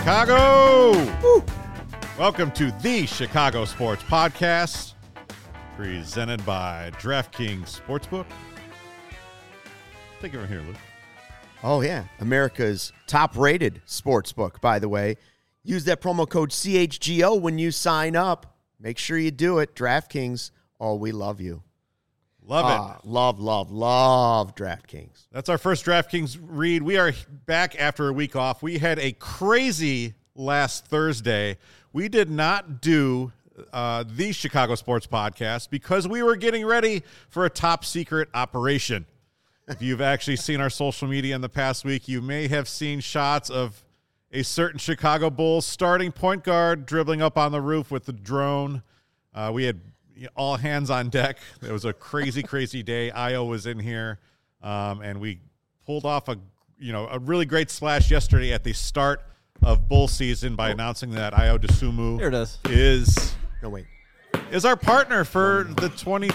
Chicago! Woo. Welcome to the Chicago Sports Podcast, presented by DraftKings Sportsbook. Take it from here, Luke. Oh, yeah. America's top-rated sportsbook, by the way. Use that promo code CHGO when you sign up. Make sure you do it. DraftKings, oh, we love you. Love it. Love DraftKings. That's our first DraftKings read. We are back after a week off. We had a crazy last Thursday. We did not do the Chicago Sports Podcast because we were getting ready for a top-secret operation. If you've actually seen our social media in the past week, you may have seen shots of a certain Chicago Bulls starting point guard dribbling up on the roof with the drone. We had all hands on deck. It was a crazy, crazy day. Io was in here, and we pulled off a really great splash yesterday at the start of Bull season by announcing that Io DeSumo is our partner for the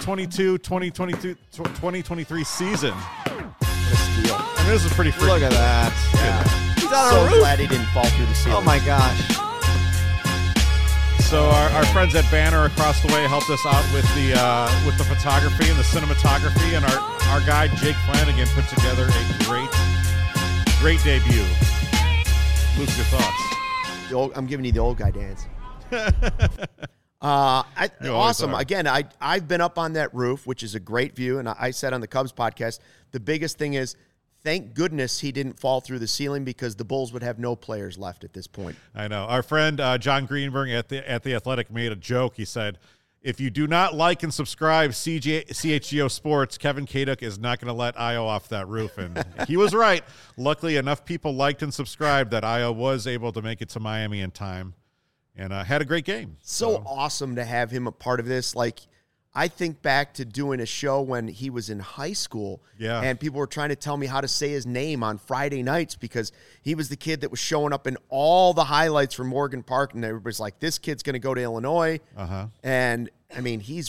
2022-2023 season. I mean, this is pretty freaking. Look at that. Yeah. He's on So a roof. glad he didn't fall through the ceiling. Oh, my gosh. So our friends at Banner across the way helped us out with the photography and the cinematography, and our guy Jake Flanagan put together a great debut. Luke, your thoughts? I'm giving you the old guy dance. Awesome. Again, I've been up on that roof, which is a great view, and I said on the Cubs podcast, the biggest thing is, thank goodness he didn't fall through the ceiling because the Bulls would have no players left at this point. I know. Our friend John Greenberg at the Athletic made a joke. He said, if you do not like and subscribe CHGO Sports, Kevin Kaduk is not going to let Io off that roof. And he was right. Luckily, enough people liked and subscribed that Io was able to make it to Miami in time and had a great game. So awesome to have him a part of this. Like, I think back to doing a show when he was in high school, and people were trying to tell me how to say his name on Friday nights because he was the kid that was showing up in all the highlights from Morgan Park, and everybody's like, this kid's going to go to Illinois. And, I mean, he's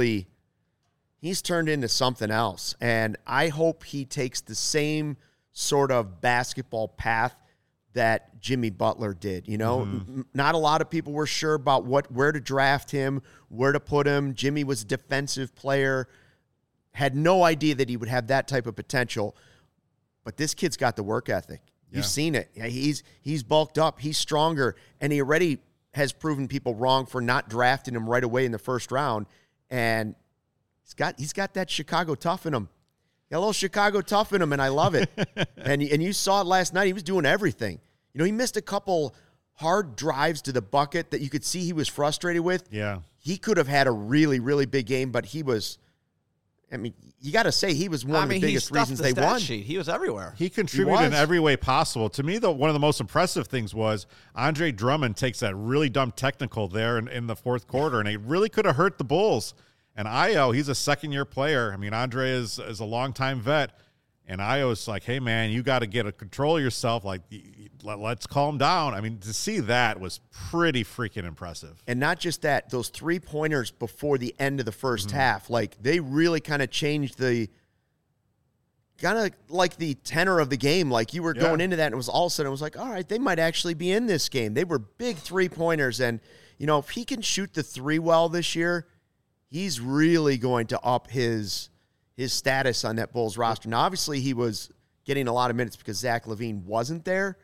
turned into something else, and I hope he takes the same sort of basketball path that Jimmy Butler did. Not a lot of people were sure about where to draft him, where to put him. Jimmy was a defensive player, had no idea that he would have that type of potential. But this kid's got the work ethic. You've seen it. He's bulked up. He's stronger, and he already has proven people wrong for not drafting him right away in the first round. And he's got that Chicago tough in him. Got a little Chicago tough in him, and I love it. and you saw it last night. He was doing everything. He missed a couple hard drives to the bucket that you could see he was frustrated with. Yeah. He could have had a really, really big game, but he was, you got to say, he was one of the biggest reasons they won. He was everywhere. He contributed in every way possible. To me, one of the most impressive things was Andre Drummond takes that really dumb technical there in the fourth quarter, and it really could have hurt the Bulls. And Io, he's a second-year player. I mean, Andre is a longtime vet. And Io's like, hey, man, you got to get a control of yourself. Like, let's calm down. I mean, to see that was pretty freaking impressive. And not just that, those three-pointers before the end of the first half, like, they really kind of changed the tenor of the game. Like, you were going into that, and it was all of a sudden, it was like, all right, they might actually be in this game. They were big three-pointers. And, if he can shoot the three well this year, he's really going to up his status on that Bulls roster. Now, obviously, he was getting a lot of minutes because Zach LaVine wasn't there.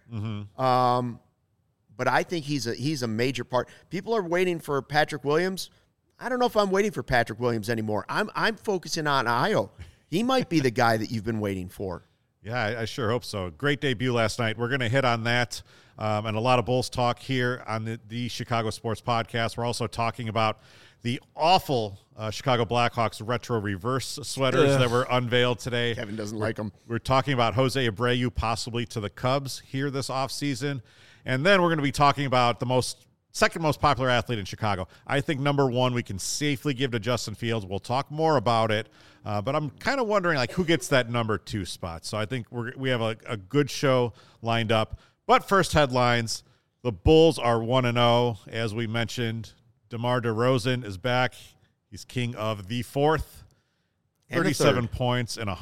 But I think he's a major part. People are waiting for Patrick Williams. I don't know if I'm waiting for Patrick Williams anymore. I'm focusing on Io. He might be the guy that you've been waiting for. Yeah, I sure hope so. Great debut last night. We're going to hit on that and a lot of Bulls talk here on the Chicago Sports Podcast. We're also talking about the awful Chicago Blackhawks retro reverse sweaters that were unveiled today. Kevin doesn't like them. We're talking about Jose Abreu possibly to the Cubs here this offseason. And then we're going to be talking about the second most popular athlete in Chicago. I think number one we can safely give to Justin Fields. We'll talk more about it. But I'm kind of wondering who gets that number 2 spot. So I think we have a good show lined up. But first headlines, the Bulls are 1-0, as we mentioned. DeMar DeRozan is back. He's king of the fourth. 37 points and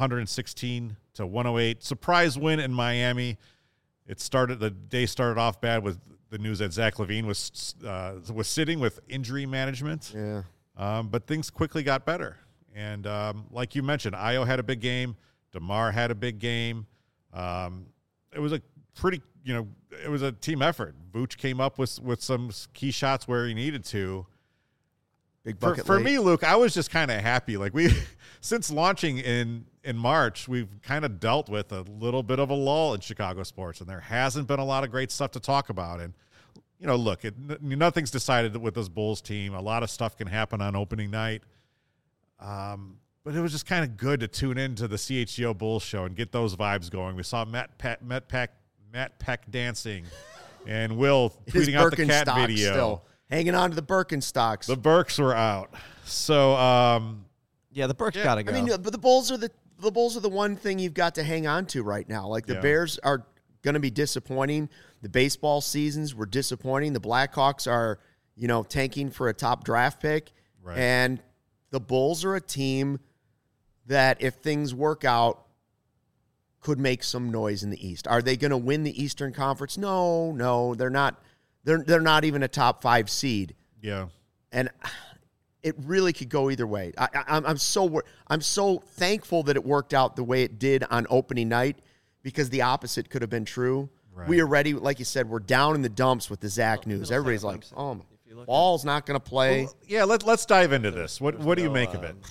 116-108. Surprise win in Miami. The day started off bad with the news that Zach LaVine was sitting with injury management. Yeah. But things quickly got better. And like you mentioned, Ayo had a big game. DeMar had a big game. It was a pretty, it was a team effort. Vooch came up with some key shots where he needed to. Big bucket For late. me, Luke, I was just kind of happy. Like since launching in March, we've kind of dealt with a little bit of a lull in Chicago sports, and there hasn't been a lot of great stuff to talk about. And, look, nothing's decided with this Bulls team. A lot of stuff can happen on opening night. But it was just kind of good to tune into the CHGO Bulls show and get those vibes going. We saw Matt Peck dancing and Will tweeting out the cat video. Still hanging on to the Birkenstocks. The Birks were out. So, yeah, the Birks got to go. I mean, but the Bulls are the one thing you've got to hang on to right now. Like the Bears are going to be disappointing. The baseball seasons were disappointing. The Blackhawks are, tanking for a top draft pick. Right. And the Bulls are a team that, if things work out, could make some noise in the East. Are they going to win the Eastern Conference? No, they're not. They're not even a top 5 seed. Yeah. And it really could go either way. I'm so thankful that it worked out the way it did on opening night, because the opposite could have been true. Right. We already, like you said, we're down in the dumps with the Zach news. Everybody's like, "Oh, Ball's not going to play." Well, yeah, let's dive into this. What do you make of it?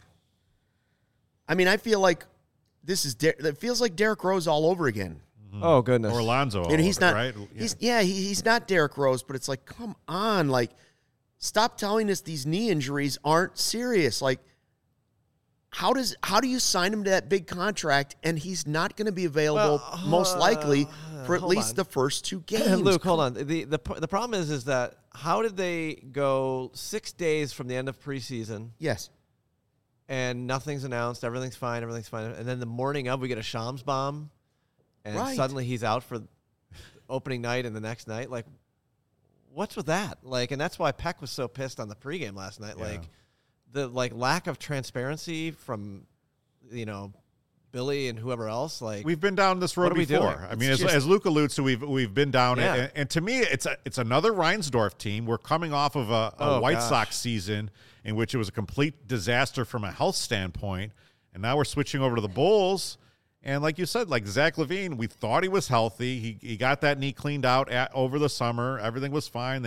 I mean, I feel like it feels like Derrick Rose all over again. Oh goodness, Or Alonzo, And he's not right? he's not Derrick Rose, but it's like, come on, like, stop telling us these knee injuries aren't serious. Like, how do you sign him to that big contract and he's not going to be available most likely for at least the first 2 games? Luke, hold on. The problem is that how did they go 6 days from the end of preseason? Yes. And nothing's announced. Everything's fine. And then the morning of, we get a Shams bomb, and suddenly he's out for opening night and the next night. Like, what's with that? Like, and that's why Peck was so pissed on the pregame last night. Yeah. Like, the lack of transparency from, Billy and whoever else. Like, we've been down this road what are we before. doing? I mean, as Luke alludes to, we've been down, Yeah. and to me, it's another Reinsdorf team. We're coming off of a White Sox season in which it was a complete disaster from a health standpoint, and now we're switching over to the Bulls. And like you said, like Zach LaVine, we thought he was healthy. He got that knee cleaned out over the summer. Everything was fine.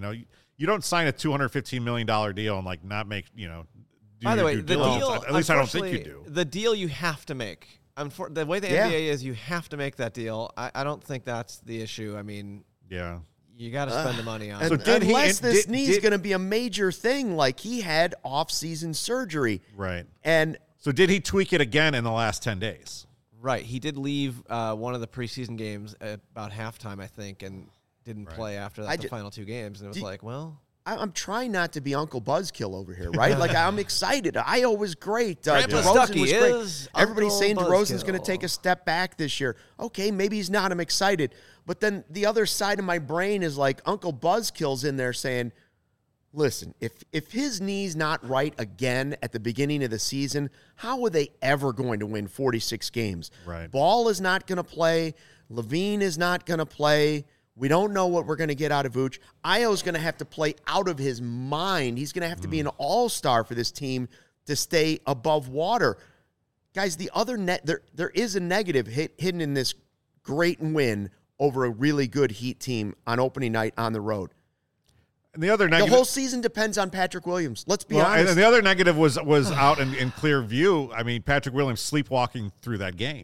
You don't sign a $215 million deal and like not make do by the way, due the diligence. deal. At least I don't think you do. The deal you have to make. The way the NBA is, you have to make that deal. I don't think that's the issue. I mean, Yeah. you got to spend the money on So it. Unless this knee is going to be a major thing, like he had off-season surgery. Right. And So did he tweak it again in the last 10 days? Right. He did leave one of the preseason games at about halftime, I think, and didn't play after that, the final 2 games. And it was I'm trying not to be Uncle Buzzkill over here, right? Like, I'm excited. Io was great. Grandpa DeRozan Stuckey was is great. Everybody's Uncle saying DeRozan's going to Buzzkill. take a step back this year. Okay, maybe he's not. I'm excited. But then the other side of my brain is like Uncle Buzzkill's in there saying, listen, if his knee's not right again at the beginning of the season, how are they ever going to win 46 games? Right. Ball is not going to play. LaVine is not going to play. We don't know what we're going to get out of Vooch. Io's going to have to play out of his mind. He's going to have to be an all-star for this team to stay above water. Guys, the other there is a negative hidden in this great win over a really good Heat team on opening night on the road. And the other The negative, whole season depends on Patrick Williams. Let's be honest. and the other negative was out in clear view. I mean, Patrick Williams sleepwalking through that game.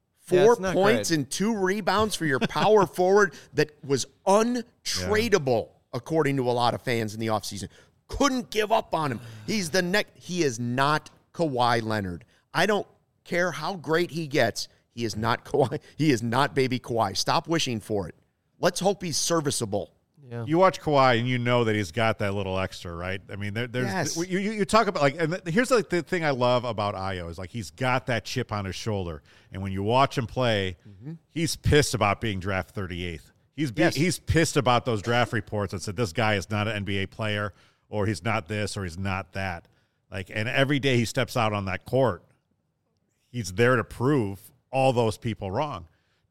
4 it's not points great. and 2 rebounds for your power forward that was untradeable, according to a lot of fans in the offseason. Couldn't give up on him. He's he is not Kawhi Leonard. I don't care how great he gets. He is not Kawhi. He is not baby Kawhi. Stop wishing for it. Let's hope he's serviceable. Yeah. You watch Kawhi and you know that he's got that little extra, right? I mean, there's Yes. you talk about like, and here's like the thing I love about Ayo is like he's got that chip on his shoulder, and when you watch him play, he's pissed about being drafted 38th. He's pissed about those draft reports that said this guy is not an NBA player, or he's not this, or he's not that. Like, and every day he steps out on that court, he's there to prove all those people wrong.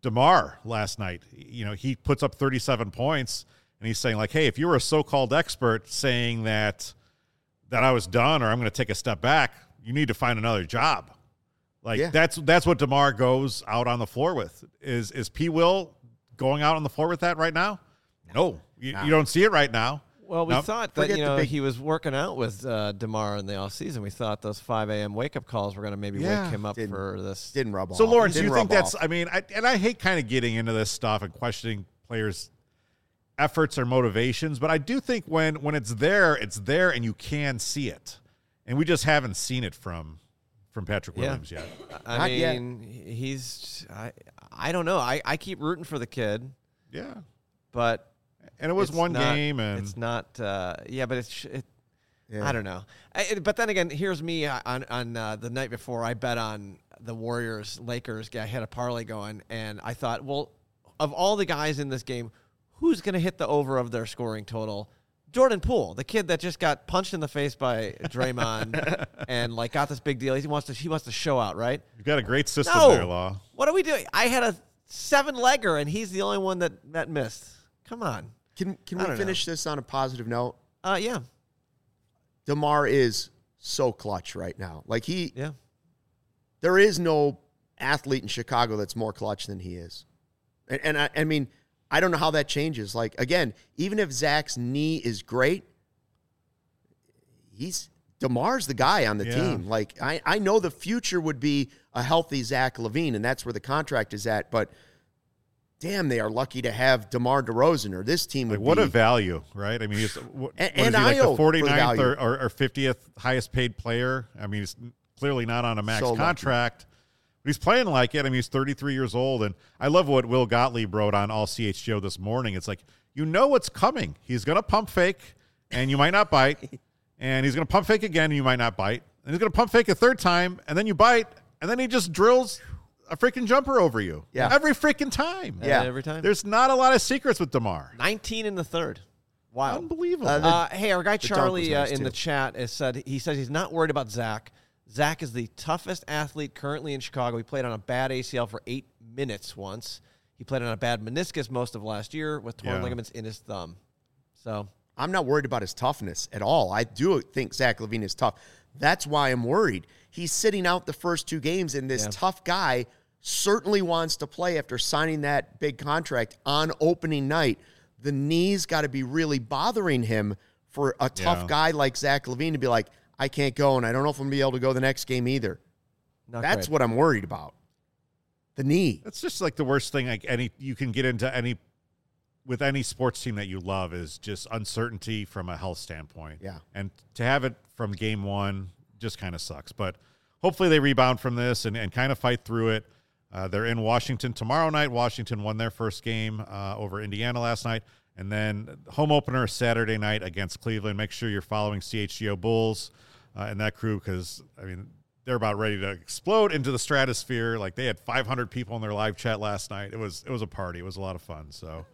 DeMar last night. You know, he puts up 37 points, and he's saying, like, hey, if you were a so-called expert saying that I was done or I'm going to take a step back, you need to find another job. Like, that's what DeMar goes out on the floor with. Is P. Will going out on the floor with that right now? No. You don't see it right now. Well, we thought that, he was working out with DeMar in the offseason. We thought those 5 a.m. wake-up calls were going to maybe wake him up for this. Didn't rub off. So, Lawrence, do you think that's – I mean, I hate kind of getting into this stuff and questioning players' efforts or motivations, but I do think when it's there and you can see it. And we just haven't seen it from Patrick Williams yet. I mean, he's – I don't know. I keep rooting for the kid. Yeah. But – and it was one game, and it's not. But I don't know. But then again, here's me on the night before. I bet on the Warriors Lakers. I had a parlay going, and I thought, well, of all the guys in this game, who's going to hit the over of their scoring total? Jordan Poole, the kid that just got punched in the face by Draymond and like got this big deal. He wants to show out, right? You've got a great system there, Law. What are we doing? I had a 7-legger, and he's the only one that missed. Come on. Can we finish this on a positive note? Yeah. DeMar is so clutch right now. Like there is no athlete in Chicago that's more clutch than he is. And I mean, I don't know how that changes. Like, again, even if Zach's knee is great, DeMar's the guy on the team. Like, I know the future would be a healthy Zach LaVine, and that's where the contract is at, but damn, they are lucky to have DeMar DeRozan, or this team would what a value, right? I mean, he's and like the 49th or 50th highest paid player. I mean, he's clearly not on a max contract. But he's playing like it. I mean, he's 33 years old, and I love what Will Gottlieb wrote on All CHGO this morning. It's like, you know what's coming. He's going to pump fake, and you might not bite, and he's going to pump fake again, and you might not bite, and he's going to pump fake a third time, and then you bite, and then he just drills a freaking jumper over you. Yeah. Every freaking time. Yeah. Every time. There's not a lot of secrets with DeMar. 19 in the third. Wow. Unbelievable. Hey, our guy Charlie in the chat he said he's not worried about Zach. Zach is the toughest athlete currently in Chicago. He played on a bad ACL for 8 minutes once. He played on a bad meniscus most of last year with torn ligaments in his thumb. So I'm not worried about his toughness at all. I do think Zach LaVine is tough. That's why I'm worried. He's sitting out the first 2 games, and this tough guy certainly wants to play after signing that big contract on opening night. The knee's got to be really bothering him for a tough guy like Zach LaVine to be like, I can't go, and I don't know if I'm going to be able to go the next game either. That's what I'm worried about. The knee. That's just like the worst thing you can get into with any sports team that you love is just uncertainty from a health standpoint. Yeah. And to have it from game 1 just kind of sucks. But hopefully they rebound from this and kind of fight through it. They're in Washington tomorrow night. Washington won their first game over Indiana last night. And then home opener Saturday night against Cleveland. Make sure you're following CHGO Bulls and that crew because, I mean, they're about ready to explode into the stratosphere. Like, they had 500 people in their live chat last night. It was a party. It was a lot of fun. So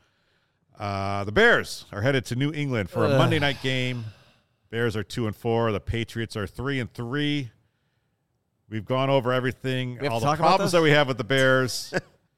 the Bears are headed to New England for a Monday night game. Bears are 2-4. The Patriots are 3-3. We've gone over everything, all the problems that we have with the Bears.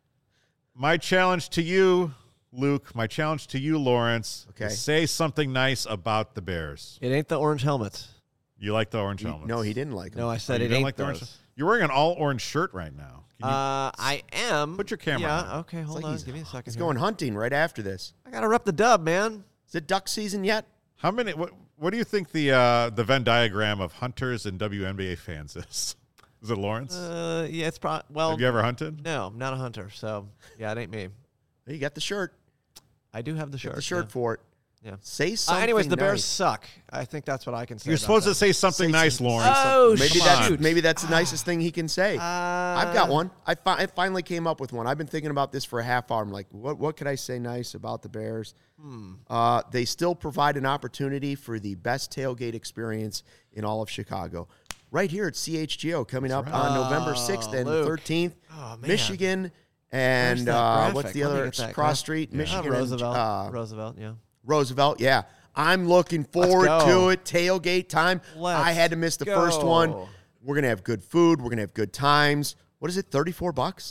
My challenge to you, Luke, my challenge to you, Lawrence, is say something nice about the Bears. It ain't the orange helmets. You like the orange helmets? No, he didn't like them. No, I said it ain't like the orange. You're wearing an all-orange shirt right now. I am. Put your camera on. Yeah, okay, hold on. Give me a second. He's going hunting right after this. I got to rep the dub, man. Is it duck season yet? How many? What do you think the Venn diagram of hunters and WNBA fans is? Is it Lawrence? Yeah, it's probably. Well, have you ever hunted? No, I'm not a hunter. So, yeah, it ain't me. You got the shirt. I do have the shirt. The shirt for it. Yeah. Say something. Anyways, the nice. Bears suck. I think that's what I can say. You're supposed to say something nice, Lawrence. Oh, maybe that's the nicest thing he can say. I've got one. I finally came up with one. I've been thinking about this for a half hour. I'm like, what could I say nice about the Bears? They still provide an opportunity for the best tailgate experience in all of Chicago. Right here at CHGO coming up on November 6th and 13th. Oh, Michigan and what's the other cross street? Yeah. Michigan Roosevelt. And, Roosevelt, yeah. Roosevelt, yeah. I'm looking forward to it. Tailgate time. I had to miss the first one. We're going to have good food. We're going to have good times. What is it, $34?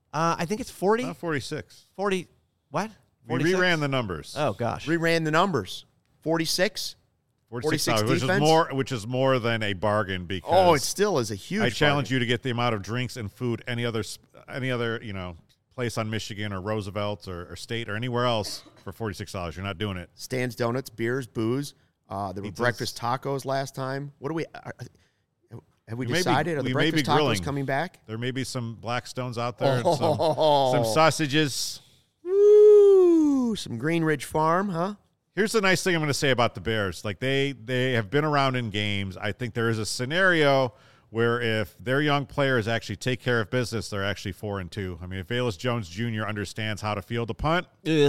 I think it's 40. Not 46. 40. What? We 46? reran the numbers. Oh gosh. Reran the numbers. 46. 46 defense? which is more than a bargain because it still is a huge. I challenge bargain. you to get the amount of drinks and food any other place on Michigan or Roosevelt or State or anywhere else for $46. You're not doing it. Stan's Donuts, beers, booze. There were Pizzas. breakfast tacos last time. What do we? Have we We may be- decided? Are the we may be breakfast tacos grilling. coming back? There may be some Blackstones out there and Oh. some sausages. Woo! Some Greenridge Farm, huh? Here's the nice thing I'm going to say about the Bears. Like they have been around in games. I think there is a scenario where if their young players actually take care of business, they're actually 4-2. I mean, if Velus Jones Jr. understands how to field a punt,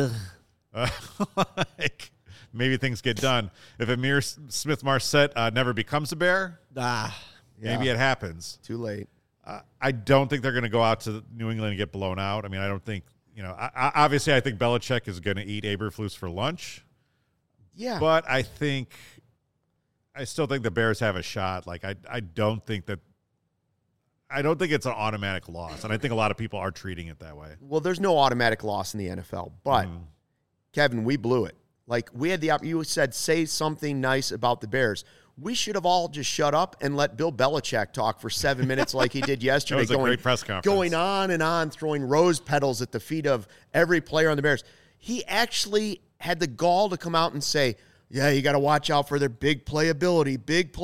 like maybe things get done. If Amir Smith-Marset never becomes a Bear, maybe it happens. Too late. I don't think they're going to go out to New England and get blown out. I mean, I don't think, obviously I think Belichick is going to eat Eberflus for lunch. Yeah. But I still think the Bears have a shot. Like, I don't think it's an automatic loss. And I think a lot of people are treating it that way. Well, there's no automatic loss in the NFL. But, Kevin, we blew it. Like, we had you said, say something nice about the Bears. We should have all just shut up and let Bill Belichick talk for 7 minutes like he did yesterday. That was a great press conference. Going on and on, throwing rose petals at the feet of every player on the Bears. He actually had the gall to come out and say, yeah, you got to watch out for their big playability.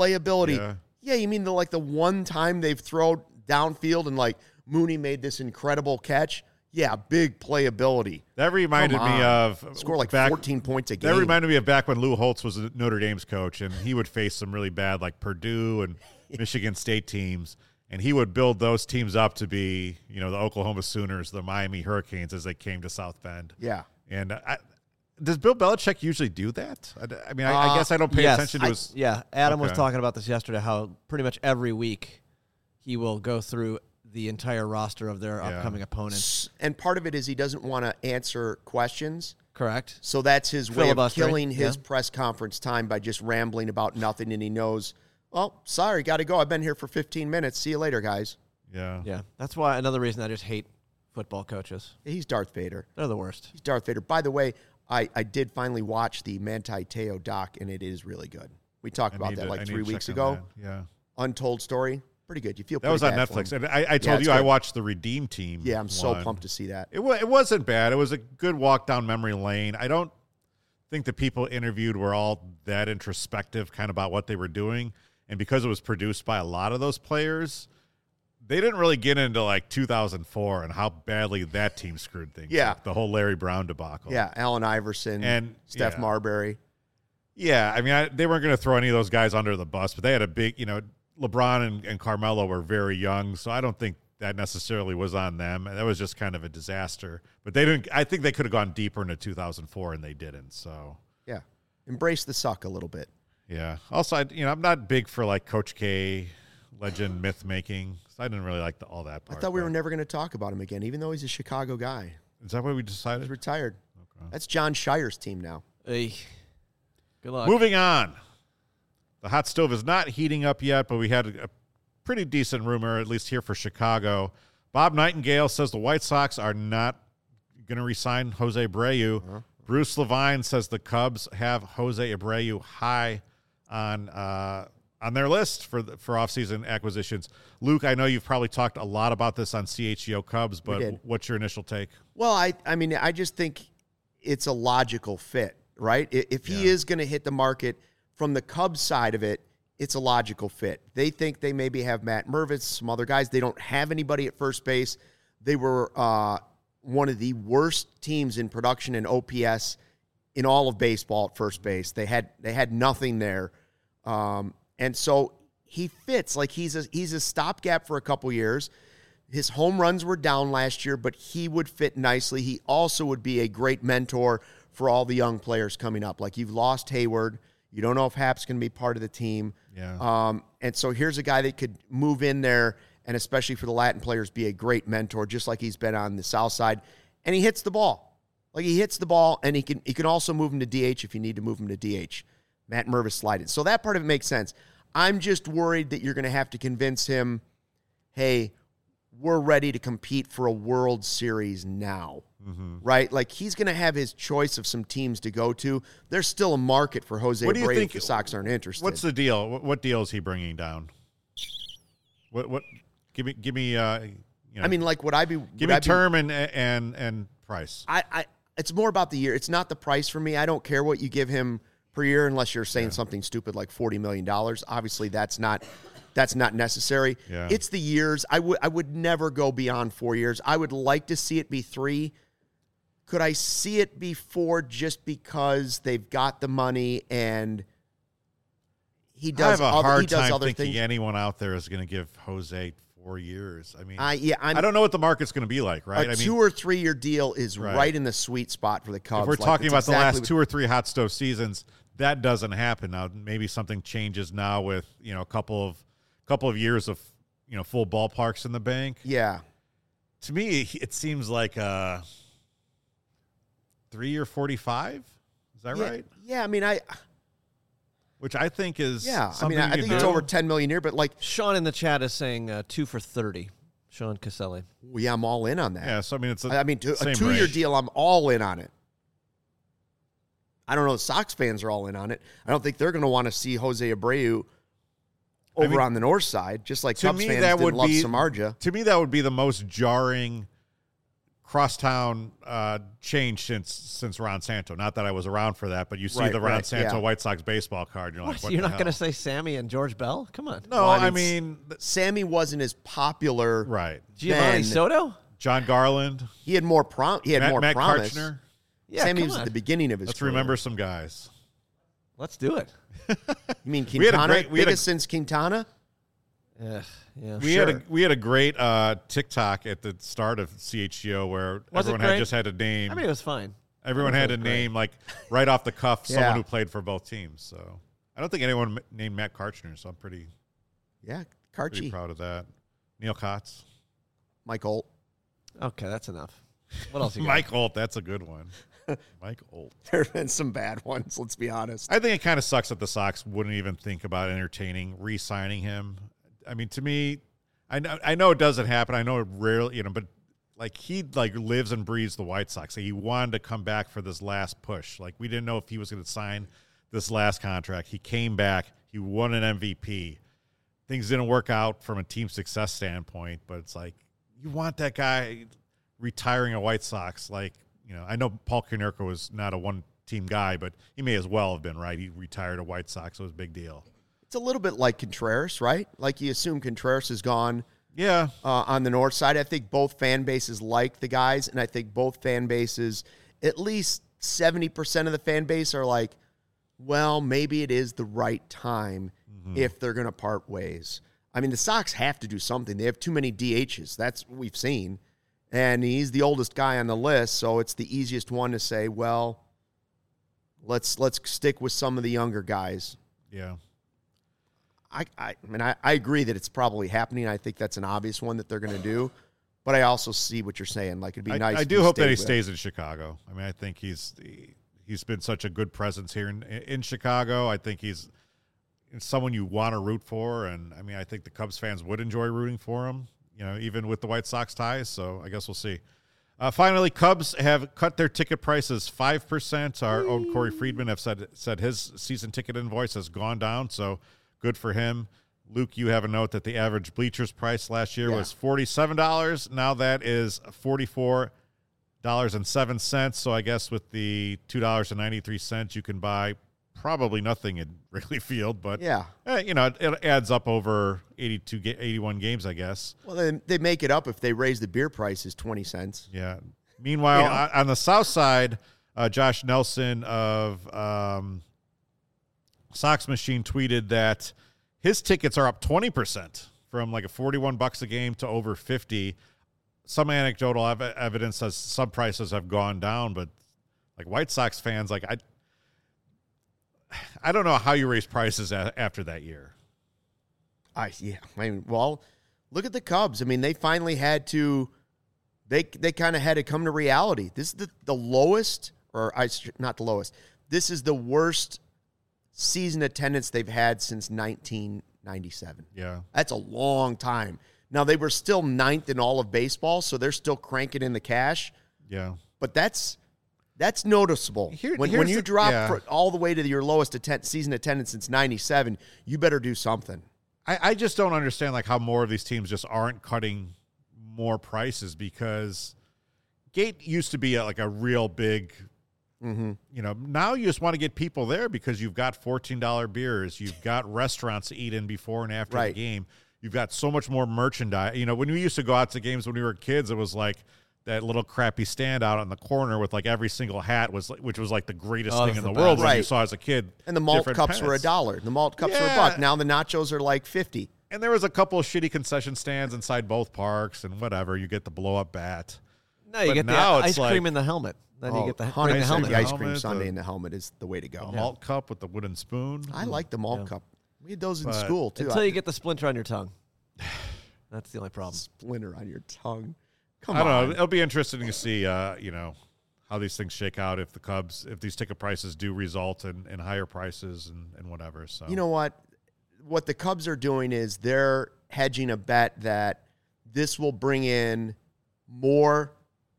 Yeah, you mean the one time they've thrown downfield and like Mooney made this incredible catch? Yeah, big playability. That reminded me of score 14 points a game. That reminded me of back when Lou Holtz was Notre Dame's coach, and he would face some really bad like Purdue and Michigan State teams, and he would build those teams up to be, the Oklahoma Sooners, the Miami Hurricanes as they came to South Bend. Yeah. And does Bill Belichick usually do that? I mean, I guess I don't pay attention to his. Yeah, Adam was Okay. talking about this yesterday, how pretty much every week he will go through the entire roster of their upcoming opponents. And part of it is he doesn't want to answer questions. Correct. So that's his way of Filibustering, killing his yeah. press conference time by just rambling about nothing. And he knows, well, sorry, got to go. I've been here for 15 minutes. See you later, guys. Yeah. Yeah, that's why another reason I just hate football coaches. He's Darth Vader. They're the worst. He's Darth Vader. By the way, I did finally watch the Manti Te'o doc, and it is really good. We talked about that like 3 weeks ago. Yeah. Untold Story. Pretty good. You feel That was on bad for Netflix. him. And I told it's you I good. watched the Redeem Team. Yeah, I'm so one. pumped to see that. It wasn't bad. It was a good walk down memory lane. I don't think the people interviewed were all that introspective kind of about what they were doing. And because it was produced by a lot of those players, they didn't really get into like 2004 and how badly that team screwed things Yeah. up. The whole Larry Brown debacle. Yeah, Allen Iverson And Steph yeah. Marbury. Yeah, I mean, they weren't going to throw any of those guys under the bus, but they had a big, LeBron and Carmelo were very young, so I don't think that necessarily was on them. That was just kind of a disaster. But they didn't. I think they could have gone deeper into 2004, and they didn't. So Yeah. Embrace the suck a little bit. yeah. Also, I'm not big for like Coach K, legend myth making. So I didn't really like all that part. I thought we were but- never going to talk about him again, even though he's a Chicago guy. Is that what we He's decided? retired. Okay. That's John Shire's team now. Hey, good luck. Moving on. The hot stove is not heating up yet, but we had a pretty decent rumor, at least here for Chicago. Bob Nightingale says the White Sox are not going to re-sign Jose Abreu. Bruce Levine says the Cubs have Jose Abreu high on their list for offseason acquisitions. Luke, I know you've probably talked a lot about this on CHGO Cubs, but did. what's your initial take? Well, I mean, I just think it's a logical fit, right? If he is going to hit the market from the Cubs side of it, it's a logical fit. They think they maybe have Matt Mervis, some other guys. They don't have anybody at first base. They were one of the worst teams in production and OPS in all of baseball at first base. They had nothing there. And so he fits. Like he's a stopgap for a couple years. His home runs were down last year, but he would fit nicely. He also would be a great mentor for all the young players coming up. Like you've lost Hayward. You don't know if Hap's going to be part of the team. Yeah. And so here's a guy that could move in there and especially for the Latin players, be a great mentor, just like he's been on the South Side. And he hits the ball. Like he hits the ball, and he can also move him to DH if you need to move him to DH. Matt Mervis slided. So that part of it makes sense. I'm just worried that you're going to have to convince him, hey, we're ready to compete for a World Series now, right? Like, he's going to have his choice of some teams to go to. There's still a market for Jose Abreu if the Sox aren't interested. What's the deal? What deal is he bringing down? What? Give me. I mean, like, would I be? Give me term and price. It's more about the year. It's not the price for me. I don't care what you give him per year unless you're saying something stupid like $40 million. Obviously, that's not necessary. Yeah. It's the years. I would never go beyond 4 years. I would like to see it be 3. Could I see it be 4 just because they've got the money and he does? I have a hard time other thinking things. Anyone out there is going to give Jose 4 years. I mean, I don't know what the market's going to be like, right? A 2 or 3 year deal is right in the sweet spot for the Cubs. If we're talking about the last 2 or 3 hot stove seasons, that doesn't happen. Now, maybe something changes now with, a couple of years of, full ballparks in the bank. Yeah. To me, it seems like 3 or 45. Is that right? Yeah. I mean, which I think is I think it's over $10 million a year, but like Sean in the chat is saying 2 for $30. Sean Caselli. Yeah, I'm all in on that. Yeah, so I mean, it's a 2-year deal. I'm all in on it. I don't know. The Sox fans are all in on it. I don't think they're going to want to see Jose Abreu over on the north side, just like Cubs fans didn't love Samardzija. To me, that would be the most jarring crosstown change since Ron Santo. Not that I was around for that, but you see the Ron Santo White Sox baseball card. You're like, what you're not going to say Sammy and George Bell? Come on. No, I mean Sammy wasn't as popular. Right. Giovanni Soto? John Garland. He had more promise. Matt Karchner. Yeah, Sammy was at the beginning of his career. Remember some guys. Let's do it. You mean Quintana? Biggest since Quintana? Yeah. We had a great TikTok at the start of CHGO where everyone just had a name. I mean, it was fine. Everyone had a name like right off the cuff, someone who played for both teams. So I don't think anyone named Matt Karchner. So I'm pretty proud of that. Neil Kotz, Mike Holt. Okay, that's enough. What else you got? Mike Holt, that's a good one. Mike Holt. There have been some bad ones, let's be honest. I think it kind of sucks that the Sox wouldn't even think about entertaining re-signing him. I mean, to me, I know it doesn't happen. I know it rarely, but like he lives and breathes the White Sox. He wanted to come back for this last push. Like we didn't know if he was going to sign this last contract. He came back. He won an MVP. Things didn't work out from a team success standpoint, but it's like you want that guy retiring a White Sox. Like, I know Paul Konerko was not a one-team guy, but he may as well have been, right? He retired a White Sox, so it was a big deal. It's a little bit like Contreras, right? Like you assume Contreras is gone Yeah. On the north side. I think both fan bases like the guys, and I think both fan bases, at least 70% of the fan base are like, well, maybe it is the right time if they're going to part ways. I mean, the Sox have to do something. They have too many DHs. That's what we've seen. And he's the oldest guy on the list, so it's the easiest one to say, well, let's stick with some of the younger guys. Yeah. I mean, I agree that it's probably happening. I think that's an obvious one that they're going to do. But I also see what you're saying. Like, it'd be nice. I do hope that he stays in Chicago. I mean, I think he's been such a good presence here in Chicago. I think he's someone you want to root for. And, I mean, I think the Cubs fans would enjoy rooting for him, even with the White Sox ties. So I guess we'll see. Finally, Cubs have cut their ticket prices 5%. Our own Corey Friedman have said his season ticket invoice has gone down, so good for him. Luke, you have a note that the average bleachers price last year was $47. Now that is $44.07. So I guess with the $2.93, you can buy probably nothing in Wrigley Field, but it adds up over 81 games, I guess. Well, they make it up if they raise the beer prices 20 cents. Yeah. Meanwhile, on the south side, Josh Nelson of Sox Machine tweeted that his tickets are up 20% from like a $41 a game to over 50. Some anecdotal evidence says some prices have gone down, but like White Sox fans, like I don't know how you raise prices after that year. I mean, well, look at the Cubs. I mean, they finally had to. They kind of had to come to reality. This is the lowest, not the lowest. This is the worst season attendance they've had since 1997. Yeah, that's a long time. Now, they were still 9th in all of baseball, so they're still cranking in the cash. Yeah. But that's noticeable. When you drop all the way to your lowest season attendance since 97, you better do something. I just don't understand like how more of these teams just aren't cutting more prices, because gate used to be a real big, now you just want to get people there because you've got $14 beers. You've got restaurants to eat in before and after the game. You've got so much more merchandise. When we used to go out to games when we were kids, it was like that little crappy stand out in the corner with like every single hat which was like the greatest thing in the world when you saw as a kid. And the malt cups were $1. The malt cups were $1. Now the nachos are like $50. And there was a couple of shitty concession stands inside both parks and whatever. You get the blow up bat. No, you get the ice cream in the helmet. Then you get the helmet. The ice cream sundae in the helmet is the way to go. The malt cup with the wooden spoon. I like the malt cup. We had those in school too. Until you get the splinter on your tongue. That's the only problem. Splinter on your tongue. I don't know. It'll be interesting to see, how these things shake out if these ticket prices do result in higher prices and whatever. So you know what? What the Cubs are doing is they're hedging a bet that this will bring in more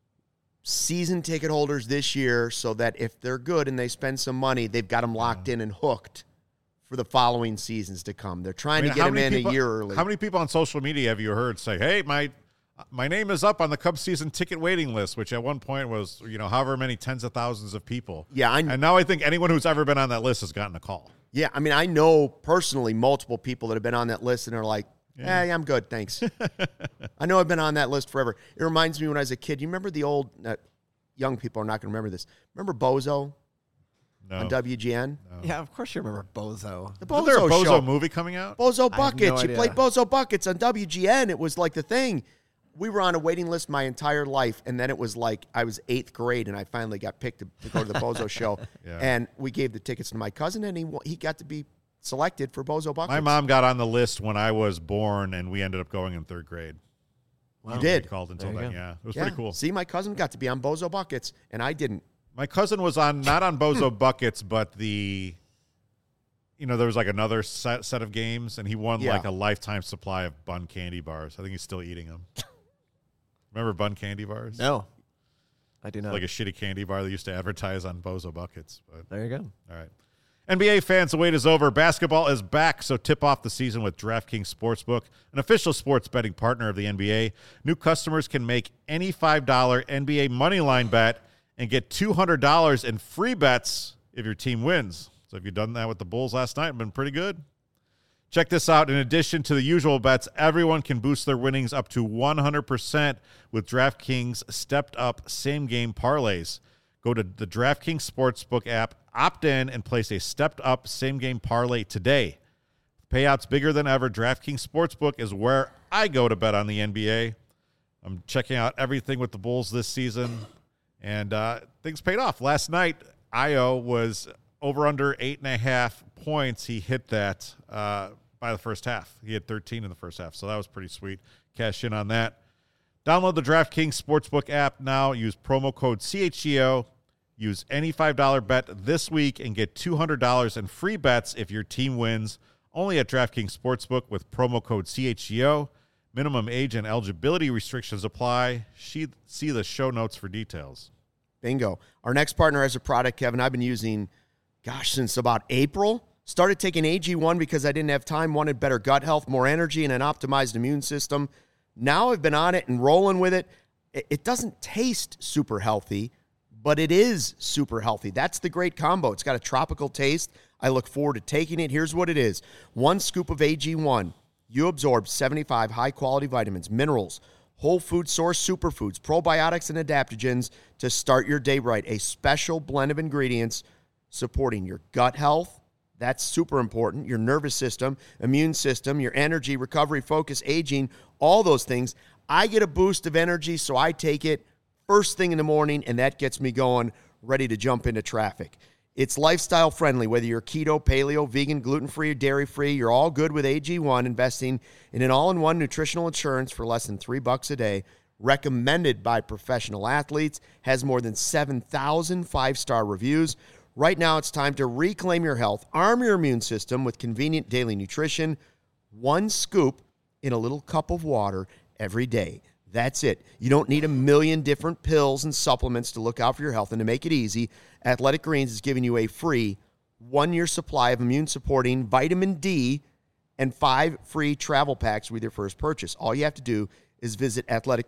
season ticket holders this year, so that if they're good and they spend some money, they've got them locked in and hooked for the following seasons to come. They're trying to get them in a year early. How many people on social media have you heard say, "Hey, my name is up on the Cubs season ticket waiting list," which at one point was, however many tens of thousands of people. Yeah. And now I think anyone who's ever been on that list has gotten a call. Yeah. I mean, I know personally multiple people that have been on that list and are like, hey, I'm good. Thanks. I know I've been on that list forever. It reminds me when I was a kid. You remember the old, young people are not going to remember this. Remember Bozo? No. On WGN? No. Yeah, of course you remember Bozo. The Bozo Isn't there a Bozo show. movie coming out? Bozo Buckets. You played Bozo Buckets on WGN. It was like the thing. We were on a waiting list my entire life, and then it was like I was 8th grade, and I finally got picked to go to the Bozo show. Yeah. And we gave the tickets to my cousin, and he got to be selected for Bozo Buckets. My mom got on the list when I was born, and we ended up going in 3rd grade. Wow. You did? We called until then, yeah. It was pretty cool. See, my cousin got to be on Bozo Buckets, and I didn't. My cousin was not on Bozo Buckets, but there was like another set of games, and he won like a lifetime supply of Bun candy bars. I think he's still eating them. Remember Bun candy bars? No, I do not. Like a shitty candy bar they used to advertise on Bozo Buckets. But there you go. All right. NBA fans, the wait is over. Basketball is back, so tip off the season with DraftKings Sportsbook, an official sports betting partner of the NBA. New customers can make any $5 NBA moneyline bet and get $200 in free bets if your team wins. So if you've done that with the Bulls last night, it's been pretty good. Check this out. In addition to the usual bets, everyone can boost their winnings up to 100% with DraftKings stepped-up same-game parlays. Go to the DraftKings Sportsbook app, opt in, and place a stepped-up same-game parlay today. Payouts bigger than ever. DraftKings Sportsbook is where I go to bet on the NBA. I'm checking out everything with the Bulls this season, and things paid off. Last night, Ayo was over under 8.5 points. He hit that by the first half. He had 13 in the first half, so that was pretty sweet. Cash in on that. Download the DraftKings Sportsbook app now. Use promo code CHGO. Use any $5 bet this week and get $200 in free bets if your team wins. Only at DraftKings Sportsbook with promo code CHGO. Minimum age and eligibility restrictions apply. See the show notes for details. Bingo. Our next partner has a product, Kevin, I've been using, since about April. Started taking AG1 because I didn't have time, wanted better gut health, more energy, and an optimized immune system. Now I've been on it and rolling with it. It doesn't taste super healthy, but it is super healthy. That's the great combo. It's got a tropical taste. I look forward to taking it. Here's what it is. 1 scoop of AG1. You absorb 75 high-quality vitamins, minerals, whole food source superfoods, probiotics, and adaptogens to start your day right. A special blend of ingredients supporting your gut health. That's super important. Your nervous system, immune system, your energy, recovery, focus, aging, all those things. I get a boost of energy, so I take it first thing in the morning, and that gets me going, ready to jump into traffic. It's lifestyle friendly, whether you're keto, paleo, vegan, gluten-free, or dairy-free, you're all good with AG1, investing in an all-in-one nutritional insurance for less than $3 a day, recommended by professional athletes, has more than 7,000 five-star reviews. Right now, it's time to reclaim your health, arm your immune system with convenient daily nutrition. 1 scoop in a little cup of water every day. That's it. You don't need a million different pills and supplements to look out for your health. And to make it easy, Athletic Greens is giving you a free 1-year supply of immune-supporting vitamin D and 5 free travel packs with your first purchase. All you have to do is visit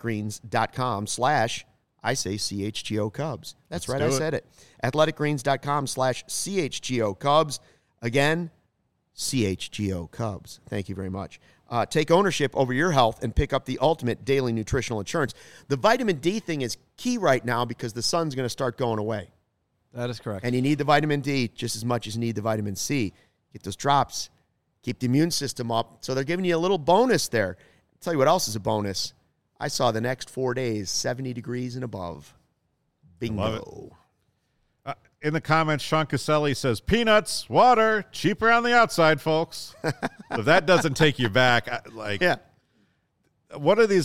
athleticgreens.com/CHGO Cubs. That's right, I said it. athleticgreens.com/CHGO Cubs. Again, CHGO Cubs. Thank you very much. Take ownership over your health and pick up the ultimate daily nutritional insurance. The vitamin D thing is key right now because the sun's going to start going away. That is correct. And you need the vitamin D just as much as you need the vitamin C. Get those drops. Keep the immune system up. So they're giving you a little bonus there. I'll tell you what else is a bonus. I saw the next 4 days, 70 degrees and above. Bingo. In the comments, Sean Caselli says, peanuts, water, cheaper on the outside, folks. If that doesn't take you back, what are these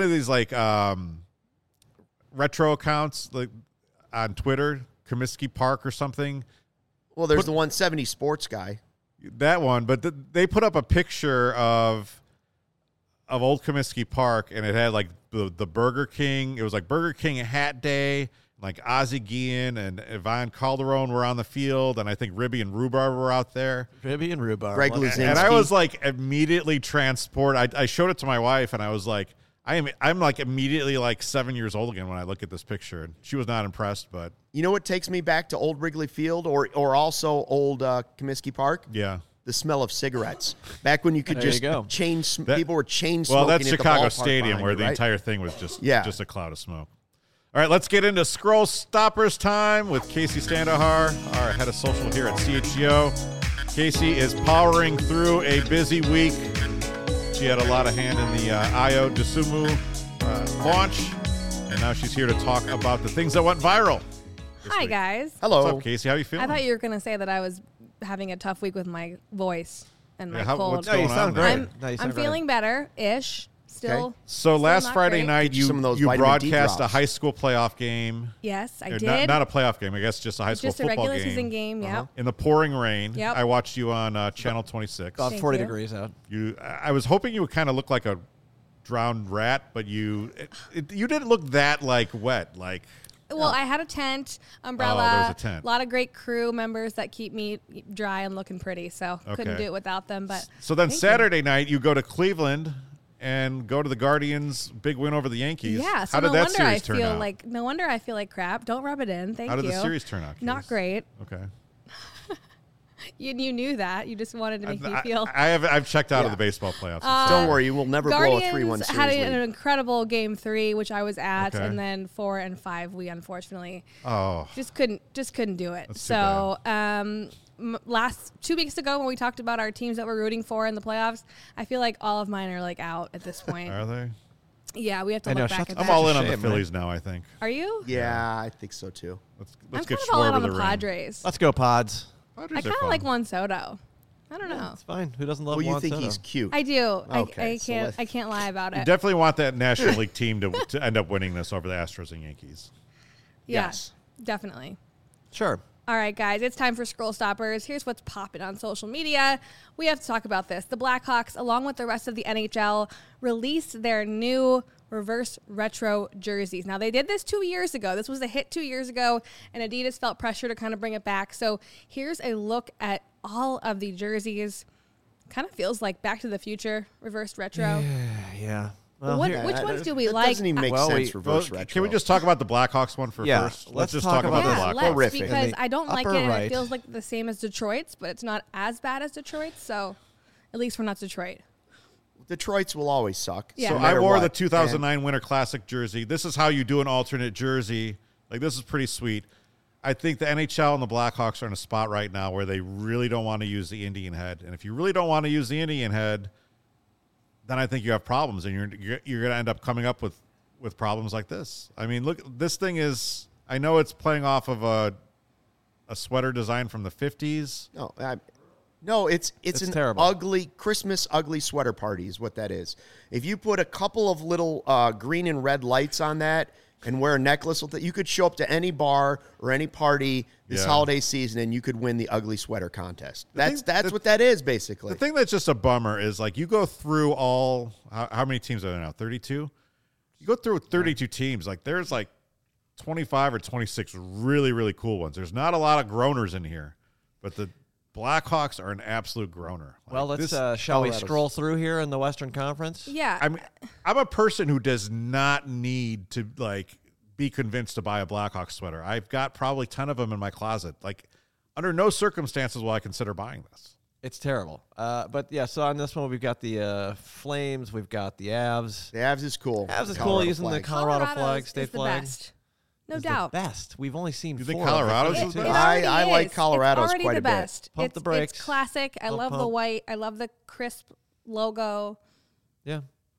retro accounts like on Twitter, Comiskey Park or something? Well, there's the 170 sports guy. That one, but they put up a picture of old Comiskey Park, and it had like the Burger King. It was like Burger King hat day. Like Ozzie Guillen and Ivan Calderon were on the field, and I think Ribby and Rhubarb were out there. Ribby and Rhubarb. Greg Luzinski. And I was like immediately transported. I showed it to my wife, and I was like, I'm like immediately like 7 years old again when I look at this picture. And she was not impressed, but you know what takes me back to old Wrigley Field or also old Comiskey Park? Yeah. The smell of cigarettes. Back when you could just people were chain smoking. Well, that's at the Chicago ballpark Stadium where the right? entire thing was just a cloud of smoke. All right, let's get into Scroll Stoppers time with Casey Standohar, our head of social here at CHGO. Casey is powering through a busy week. She had a lot of hand in the Io DeSumo launch, and now she's here to talk about the things that went viral. Hi, guys. Hello. What's up, Casey? How you feeling? I thought you were going to say that I was having a tough week with my voice and my What's cold. No, you going sound on great. I'm feeling better-ish. Still. Okay. So still last not Friday great. night, you some of those vitamin D broadcast a drops. high school playoff game. Yes, I Or did. Not a playoff game, I guess, just a high school Just a football regular season game, yep. In the pouring rain. Yep. I watched you on Channel 26. About Thank 40 you. degrees out. I was hoping you would kind of look like a drowned rat, but you didn't look that like wet. Like, Well, I had a tent, umbrella, there was a tent. a lot of great crew members that keep me dry and looking pretty, so couldn't Okay. do it without them. But so then thank Saturday night you go to Cleveland and go to the Guardians' big win over the Yankees. you. Yeah, so How did no that wonder series turn out? no wonder I feel like crap. Don't rub it in. Thank you. How did the series turn out? Not Case? great. Okay. You knew that. You just wanted to make me feel. I've checked out of Yeah. the baseball playoffs. Don't worry, you will never blow a Guardians 3-1 series had lead. an incredible game 3, which I was at, Okay. and then 4 and 5 we unfortunately Oh, just couldn't do it. That's too So last 2 weeks ago when we talked about our teams that we're rooting for in the playoffs, I feel like all of mine are like out at this point. are they? Yeah, we have to I know, look back shut at the I'm that. all in on the Shame, Phillies now, I think. Are you? Yeah, I think so too. Let's I'm get kind of all in Schwarber on the ring. Padres. Let's go, Pods. Padres I are kind of fun. like Juan Soto. I don't know. It's fine. Who doesn't love Well, you Juan think Soto? he's cute. I do. Okay, I so can't. let's- I can't lie about You it. definitely want that National League team to end up winning this over the Astros and Yankees. Yeah, Yes. definitely. Sure. All right, guys, it's time for Scroll Stoppers. Here's what's popping on social media. We have to talk about this. The Blackhawks, along with the rest of the NHL, released their new reverse retro jerseys. Now, they did this 2 years ago. This was a hit 2 years ago, and Adidas felt pressure to kind of bring it back. So here's a look at all of the jerseys. Kind of feels like Back to the Future, reverse retro. Yeah. But Well, here- which ones do we that like? doesn't even make Well, sense, reverse Well, retro. can we just talk about the Blackhawks one Yeah, first? let's just talk talk about about the this. Yeah, Blackhawks. let's, Horrific. because In the I don't like it, upper and right. it feels like the same as Detroit's, but it's not as bad as Detroit's, so at least we're not Detroit. Detroit's will always suck. Yeah. So no I matter wore what. the 2009 Winter Classic jersey. This is how you do an alternate jersey. Like, this is pretty sweet. I think the NHL and the Blackhawks are in a spot right now where they really don't want to use the Indian head. And if you really don't want to use the Indian head, then I think you have problems, and you're going to end up coming up with problems like this. I mean, look, this thing is, I know it's playing off of a sweater design from the 50s. No, it's an terrible. ugly Christmas ugly sweater party is what that is. If you put a couple of little green and red lights on that, and wear a necklace with it. You could show up to any bar or any party this holiday season, and you could win the ugly sweater contest. That's what that is, basically. The thing that's just a bummer is, like, you go through all how many teams are there now? 32. You go through 32 teams. Like, there's like 25 or 26 really, really cool ones. There's not a lot of groaners in here, but the Blackhawks are an absolute groaner. Like, well, let's shall we scroll through here in the Western Conference? Yeah. I mean, I'm a person who does not need to, like, be convinced to buy a Blackhawks sweater. I've got probably 10 of them in my closet. Like, under no circumstances will I consider buying this. It's terrible. But, yeah, so on this one, we've got the Flames. We've got the Avs. The Avs is cool. Avs is cool using the Colorado flag, state is the flag. Best. No doubt. The best. We've only seen You 4. think Colorado's It is the already best? I like is. Colorado's it's already quite the a bit. best. Pump the brakes. It's classic. I love the pump. white. I love the crisp logo. Yeah.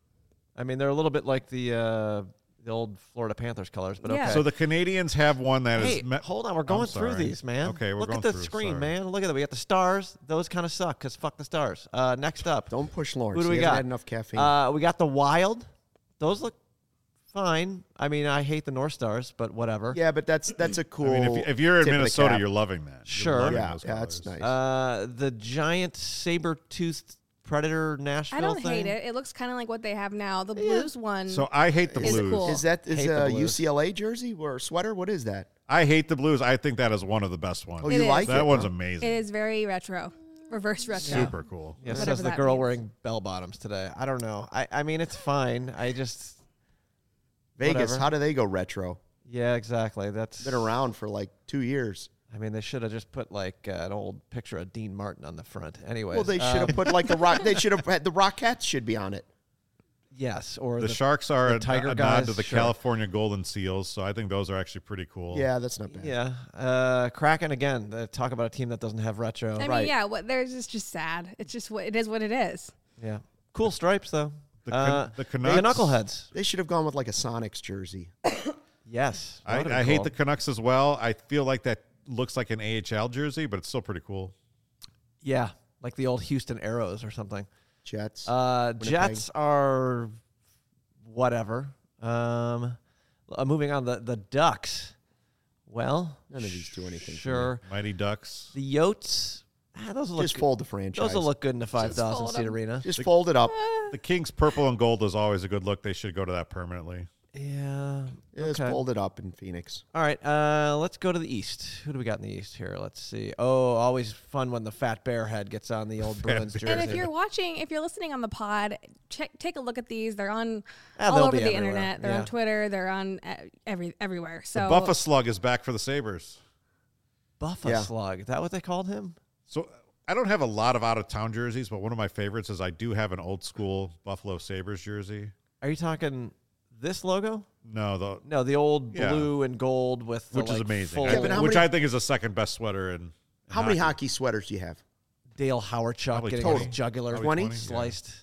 I mean, they're a little bit like the old Florida Panthers colors, but Yeah. okay. So the Canadians have one that is. Hey, hold on. We're going through sorry. these, man. Okay, we're Look going at the through, screen, sorry. man. Look at that. We got the Stars. Those kind of suck because fuck the Stars. Next up. Don't push Lawrence. Who do we He hasn't got? had enough caffeine. We got the Wild. Those look fine. I mean, I hate the North Stars, but whatever. yeah, but that's a cool. I mean, if you're in tip of the Minnesota, cap. you're loving that. You're Sure. loving Yeah, those that's colors. nice. The giant saber-toothed predator Nashville I don't thing. hate it. It looks kind of like what they have now. The Blues one. So I hate the Is Blues. cool. Is that Hate the a Blues. UCLA jersey or sweater? What is that? I hate the Blues. I think that is one of the best ones. Oh, It you is. like that it? one's huh? amazing. It is very retro. Reverse retro. Super cool. Yeah, Whatever says the that girl means. wearing bell bottoms today. I don't know. I mean, it's fine. I just Vegas. Whatever. How do they go retro? yeah, exactly. That's Been around for like 2 years. I mean, they should have just put like an old picture of Dean Martin on the front. Anyways, Well, they should have put like the rock. They should have had the Rockettes should be on it. yes, or The Sharks are the a Tiger nod guys, to the sure. California Golden Seals, so I think those are actually pretty cool. Yeah, that's not bad. Yeah, Kraken again. Talk about a team that doesn't have retro. I mean, Right. yeah. What there's just sad. It's just what it is. What it is. Yeah, cool stripes though. The Canucks. The Knuckleheads. They should have gone with like a Sonics jersey. Yes, that would've I been hate cool. the Canucks as well. I feel like that looks like an AHL jersey, but it's still pretty cool. Yeah, like the old Houston Arrows or something. Jets. Jets are whatever. Moving on, the Ducks. Well, None of these do anything for Sure. Mighty Ducks. The Yotes. Those will look Just good. fold the franchise. Those will look good in a 5,000 fold seat 'em. arena. Just fold it up. The Kings purple and gold is always a good look. They should go to that permanently. Yeah. Just Okay. fold it up in Phoenix. All right. Let's go to the East. Who do we got in the East here? Let's see. Oh, always fun when the fat bear head gets on the old Bruins jersey. And if you're watching, if you're listening on the pod, take a look at these. They're on Yeah, all they'll over be the everywhere. internet. They're Yeah. on Twitter. They're on everywhere. So The Buffa Slug is back for the Sabres. Buffa Yeah. Slug. Is that what they called him? So I don't have a lot of out-of-town jerseys, but one of my favorites is I do have an old-school Buffalo Sabres jersey. Are you talking this logo? No, No, the old Yeah. blue and gold with the, which is like, amazing. full I but how which many- I think is the second best sweater in How many hockey sweaters do you have? Dale Howarchuk Probably getting 20. his jugular Probably 20? 20, yeah. sliced.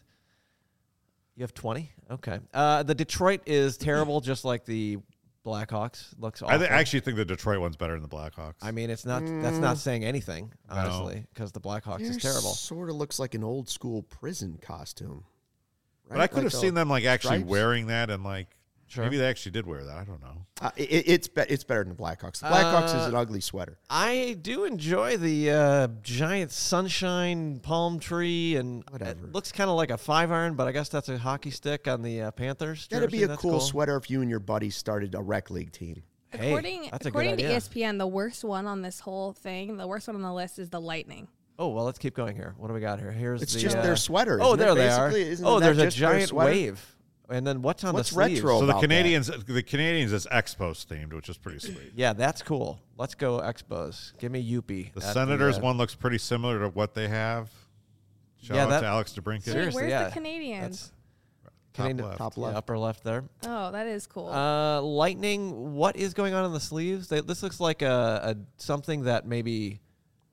You have 20? Okay. The Detroit is terrible, just like the Blackhawks. Looks awful. I actually think the Detroit one's better than the Blackhawks. I mean, it's not. That's not saying anything, honestly, because the Blackhawks is terrible. Sort of looks like an old school prison costume. Right? but I could Like have seen them like actually stripes? wearing that, and like Sure. maybe they actually did wear that. I don't know. It's better than the Blackhawks. The Blackhawks is an ugly sweater. I do enjoy the giant sunshine palm tree, and Whatever. it looks kind of like a 5-iron, but I guess that's a hockey stick on the Panthers. That'd be jersey. a That's cool sweater if you and your buddies started a rec league team. Hey, according that's a according good to idea. ESPN, the worst one on this whole thing, the worst one on the list is the Lightning. Oh well, let's keep going here. What do we got here? Here's It's the, just their sweater. Oh, isn't it, there they are. basically? Isn't Oh, that there's a just their giant sweater? wave, and then what's on What's the sleeves? retro? So the about Canadians is Expos themed, which is pretty sweet. Yeah, that's cool. Let's go Expos. Give me Youppi. The at Senators the, one looks pretty similar to what they have. Shout Yeah, out that- to Alex DeBrincat. Wait, Seriously, where's yeah. the Canadians? That's Canadian- left. Top yeah, left. upper left there. Oh, that is cool. Lightning. What is going on in the sleeves? This looks like a something that maybe,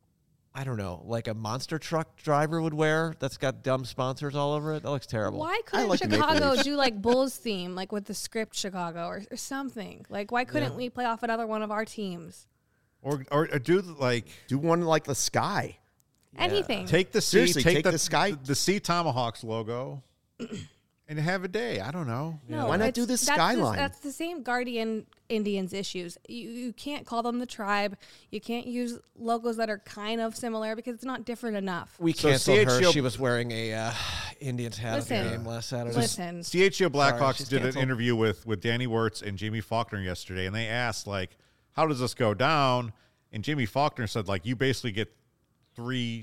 I don't know, like a monster truck driver would wear. That's got dumb sponsors all over it. That looks terrible. Why couldn't like the Maple Chicago Leafs. do like Bulls theme, like with the script Chicago or something? Like, why couldn't we play off another one of our teams? Or do like Do one like the sky. Anything. take the Seriously, Sea, take the Sky- the Sea Tomahawks logo, and have a day. I don't know. No, Why not do this skyline? That's the same Guardian Indians issues. You can't call them the tribe. You can't use logos that are kind of similar because it's not different enough. We So canceled her. CHGO She was wearing a Indians hat at the Listen. game last Saturday. Listen, CHGO Blackhawks she's did an canceled. interview with Danny Wirtz and Jamie Faulkner yesterday, and they asked, like, how does this go down? And Jamie Faulkner said, like, you basically get three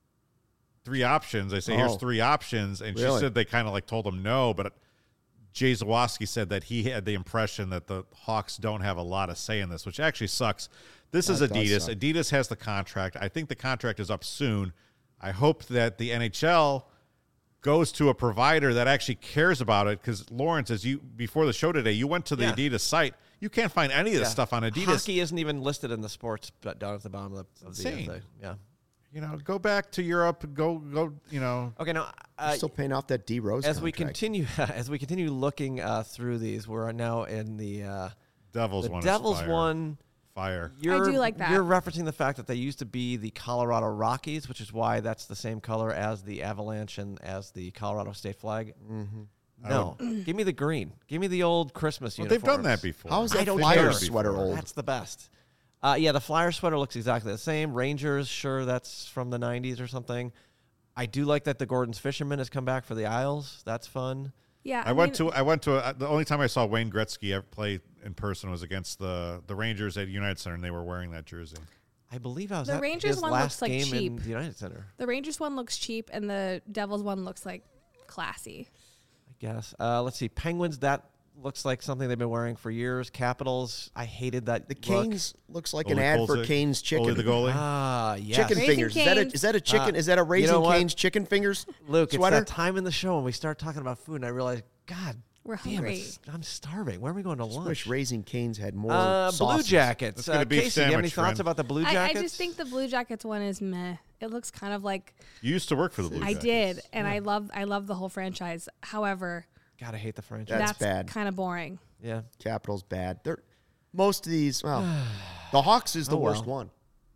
options. They say, here's three options. And Really? she said they kind of, like, told him no, but Jay Zawoski said that he had the impression that the Hawks don't have a lot of say in this, which actually sucks. This is That does Adidas. suck. Adidas has the contract. I think the contract is up soon. I hope that the NHL goes to a provider that actually cares about it, because Lawrence, before the show today, you went to the Yeah. Adidas site. You can't find any of this stuff on Adidas. Hockey isn't even listed in the sports, but down at the bottom of the insane. thing. Yeah. You know, go back to Europe. Go. You know, Okay, now Still paying off that D Rose as we contract. continue looking through these, we're now in the Devils one. Devils is fire. one. Fire. You're, do like that. You're referencing the fact that they used to be the Colorado Rockies, which is why that's the same color as the Avalanche and as the Colorado state flag. Mm-hmm. No, give me the green. Give me the old Christmas Well, uniforms. they've done that before. How is I that don't Flyer care. sweater old? That's the best. Yeah, the Flyer sweater looks exactly the same. Rangers, sure, that's from the 90s or something. I do like that the Gordon's Fisherman has come back for the Isles. That's fun. yeah. I went to the only time I saw Wayne Gretzky ever play in person was against the Rangers at United Center, and they were wearing that jersey. I believe I was The at Rangers his one last looks like game cheap. in the United Center. The Rangers one looks cheap, and the Devils one looks like classy. I guess. Let's see. Penguins, that looks like something they've been wearing for years. Capitals, I hated that The look. Canes looks like an Ole ad for Kolzig, Cane's chicken. Ole the goalie. Ah, yes. Chicken Raising fingers. Cane's. Is that a chicken? Is that a Raising know what? Cane's chicken fingers Luke, sweater? it's that time in the show when we start talking about food, and I realize, God, We're damn, hungry. I'm starving. Where are we going to I lunch? wish Raising Cane's had more Blue sauces. Jackets. Let's get a beef Casey, do you have any sandwich, thoughts friend. about the Blue I Jackets? just think the Blue Jackets one is meh. It looks kind of like You used to work for the Blue I Jackets. did, and I love the whole franchise. However, God, I hate the franchise. That's bad. kind of boring. Yeah. Capitals bad. Most of these, well, the Hawks is the Oh, well. worst one.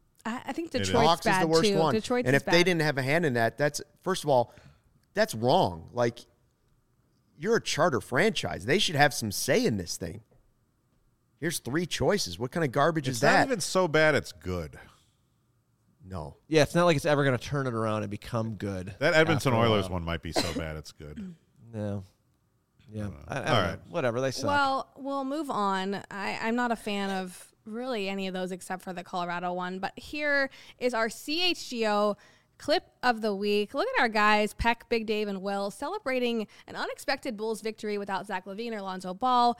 I think is. Detroit's The Hawks bad is the worst too. one. Detroit's and is if bad. they didn't have a hand in that, that's first of all, that's wrong. Like, you're a charter franchise. They should have some say in this thing. Here's three choices. What kind of garbage It's is not that? even so bad. It's good. No. Yeah, it's not like it's ever going to turn it around and become good. That Edmonton after a Oilers while. one might be so bad it's good. No. Yeah. I don't All know. right. Whatever. They suck. Well, we'll move on. I'm not a fan of really any of those except for the Colorado one. But here is our CHGO clip of the week. Look at our guys, Peck, Big Dave, and Will, celebrating an unexpected Bulls victory without Zach LaVine or Lonzo Ball.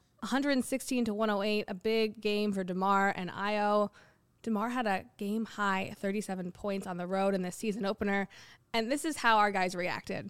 116-108, a big game for DeMar and Io. DeMar had a game-high 37 points on the road in the season opener. And this is how our guys reacted.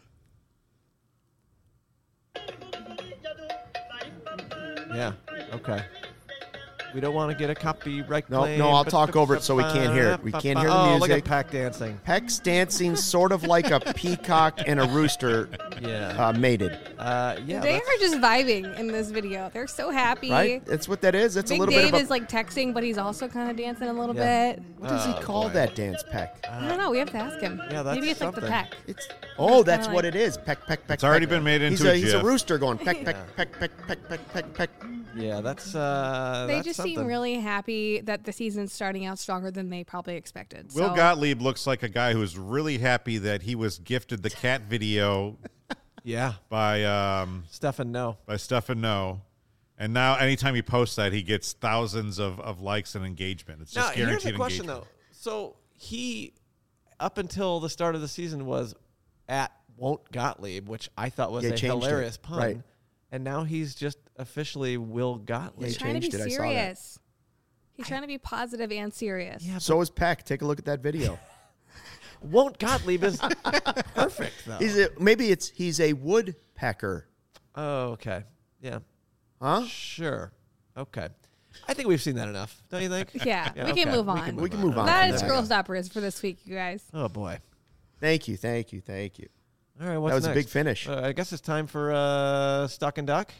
Yeah. Okay. We don't want to get a copyright No, claim. no, I'll talk over it so we can't hear it. We can't hear the Oh, look music. at Pack dancing. Peck's dancing sort of like a peacock and a rooster Yeah. mated, Yeah. They that's- are just vibing in this video. They're so happy. right? That's what that is. That's Big a little Dave bit of is like texting, but he's also kind of dancing a little Yeah. bit. What does he call that dance, Peck? I don't know. We have to ask him. Yeah, that's Maybe it's like the something. peck. That's kinda what like- it is. Peck, peck, peck. It's already peck. been made into he's a He's a GIF. rooster going peck, peck, peck, peck, peck, peck, peck, peck. Yeah, that's They that's just something. seem really happy that the season's starting out stronger than they probably expected. Will So, Gottlieb looks like a guy who's really happy that he was gifted the cat video Yeah. by Stefan, no. Stefan No. And now anytime he posts that, he gets thousands of likes and engagement. It's just Now, here's guaranteed the question, engagement. though. So he, up until the start of the season, was at Won't Gottlieb, which I thought was Yeah, a he changed it. hilarious pun. Right. And now he's just officially Will Gottlieb. he's They trying to be changed it. I saw that. serious. He's trying to be positive and serious. Yeah, So is Peck. Take a look at that video. Won't Gottlieb is perfect, though. He's a woodpecker, Oh, okay. Yeah. huh? Sure. Okay. I think we've seen that enough, don't you think? Yeah, Yeah, we can okay. move We on. can We can move on. That from is that. Girl Stoppers for this week, you guys. Oh, boy. Thank you, thank you, thank you. All right, what's That was a next? big finish. I guess it's time for Stuck and Duck.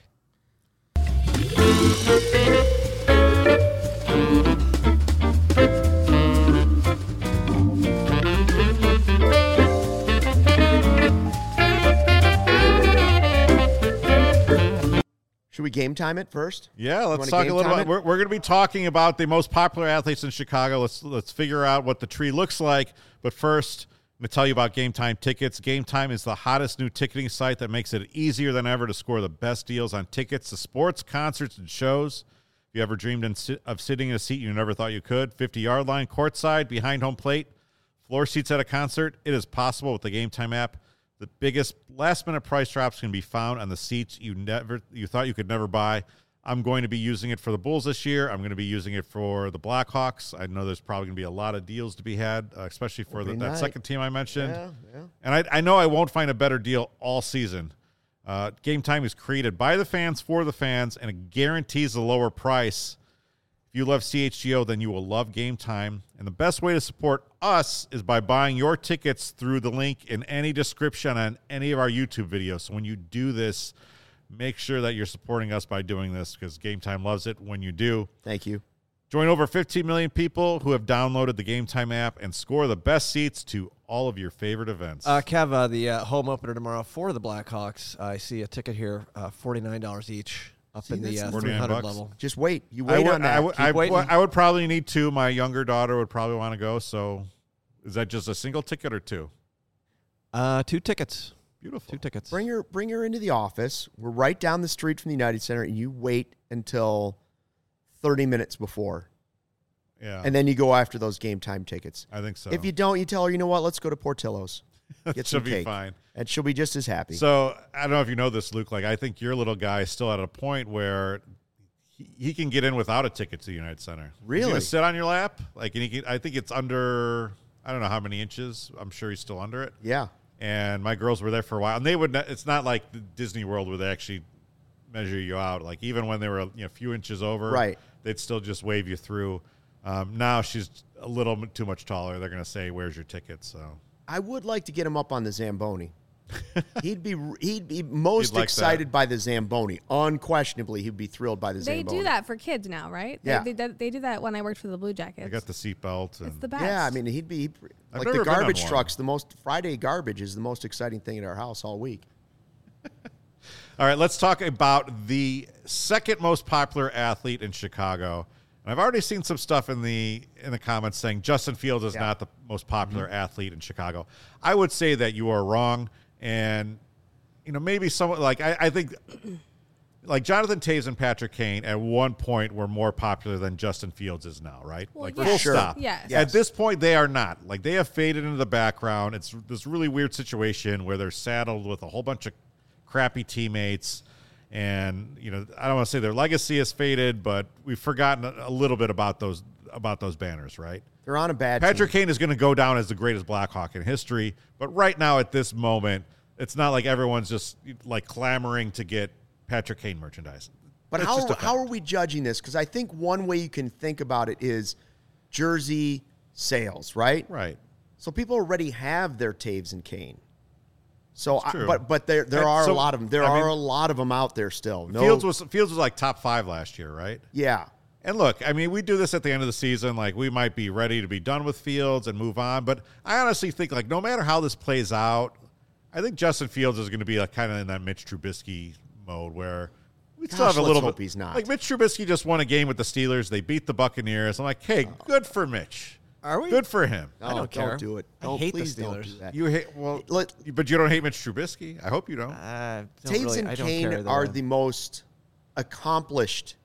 Should we game time it first? Yeah, let's talk a little bit. We're going to be talking about the most popular athletes in Chicago. Let's figure out what the tree looks like. But first, I'm going to tell you about Game Time tickets. Game Time is the hottest new ticketing site that makes it easier than ever to score the best deals on tickets to sports, concerts, and shows. If you ever dreamed of sitting in a seat you never thought you could, 50-yard line, courtside, behind home plate, floor seats at a concert, it is possible with the Game Time app. The biggest last-minute price drops can be found on the seats you thought you could never buy. I'm going to be using it for the Bulls this year. I'm going to be using it for the Blackhawks. I know there's probably going to be a lot of deals to be had, especially for that second team I mentioned. Yeah. And I know I won't find a better deal all season. Game Time is created by the fans for the fans, and it guarantees a lower price. If you love CHGO, then you will love Game Time. And the best way to support us is by buying your tickets through the link in any description on any of our YouTube videos. So when you do this, make sure that you're supporting us by doing this, because Game Time loves it when you do. Thank you. Join over 15 million people who have downloaded the Game Time app and score the best seats to all of your favorite events. Kev, the home opener tomorrow for the Blackhawks, I see a ticket here, $49 each. Up in the 300 level. Just wait. You wait on that. I would probably need two. My younger daughter would probably want to go. So is that just a single ticket or two? 2 tickets. Beautiful. 2 tickets. Bring her into the office. We're right down the street from the United Center, and you wait until 30 minutes before. Yeah. And then you go after those Game Time tickets. I think so. If you don't, you tell her, you know what, let's go to Portillo's. Get some She'll cake. be fine. And she'll be just as happy. So I don't know if you know this, Luke. Like, I think your little guy is still at a point where he can get in without a ticket to the United Center. Really? He's gonna sit on your lap. Like, and he can, I think it's under, I don't know how many inches. I'm sure he's still under it. Yeah. And my girls were there for a while, and they would. It's not like the Disney World where they actually measure you out. Like, even when they were a few inches over, right, they'd still just wave you through. Now she's a little too much taller. They're going to say, "Where's your ticket?" So I would like to get him up on the Zamboni. He'd be most excited by the Zamboni. Unquestionably, he'd be thrilled by the Zamboni. They do that for kids now, right? Yeah. They do that when I worked for the Blue Jackets. I got the seatbelt. It's the best. Yeah, I mean, he'd be like the garbage trucks. Friday garbage is the most exciting thing at our house all week. All right, let's talk about the second most popular athlete in Chicago. And I've already seen some stuff in the comments saying Justin Fields is not the most popular athlete in Chicago. I would say that you are wrong. And, maybe someone like I think like Jonathan Taves and Patrick Kane at one point were more popular than Justin Fields is now, right? Well, like, yeah. full Sure. stop. Yes. At this point, they are not. Like, they have faded into the background. It's this really weird situation where they're saddled with a whole bunch of crappy teammates. And, I don't want to say their legacy has faded, but we've forgotten a little bit about those banners, right? They're on a bad Patrick team. Kane is going to go down as the greatest Blackhawk in history. But right now, at this moment, it's not like everyone's just like clamoring to get Patrick Kane merchandise. But how are we judging this? Because I think one way you can think about it is jersey sales, right? Right. So people already have their Taves and Kane. So, true. but there are a lot of them. There are a lot of them out there still. Fields was like top 5 last year, right? Yeah. And look, I mean, we do this at the end of the season. Like, we might be ready to be done with Fields and move on. But I honestly think, like, no matter how this plays out, I think Justin Fields is going to be like kind of in that Mitch Trubisky mode where we still have a little hope bit. He's not. Like, Mitch Trubisky just won a game with the Steelers. They beat the Buccaneers. I'm like, hey, good for Mitch. Are we? Good for him. I don't care. Don't do it. I hate the please don't Steelers. do that. You hate but you don't hate Mitch Trubisky. I hope you don't. Taves and Kane are the most accomplished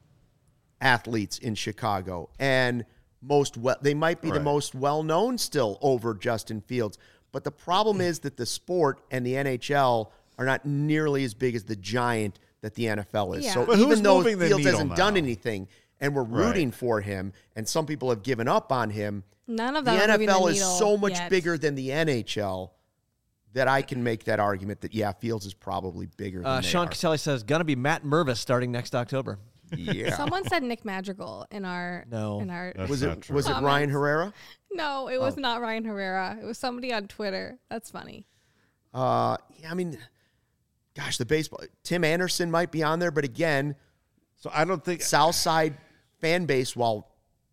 athletes in Chicago, and they might be the most well-known still over Justin Fields. But the problem is that the sport and the NHL are not nearly as big as the giant that the NFL is. Yeah. So But even who's though moving the Fields needle hasn't now? done anything, and we're rooting for him, and some people have given up on him, None of the them are moving NFL the is needle so much yet. bigger than the NHL that I can make that argument that, Fields is probably bigger than they Sean are. Caselli says, going to be Matt Mervis starting next October. Yeah. Someone said Nick Madrigal in our No. That's Was not it true. Ryan Herrera? No, it was not Ryan Herrera. It was somebody on Twitter. That's funny. Yeah, I mean, gosh, the baseball. Tim Anderson might be on there, but again, So I don't think Southside fan base, while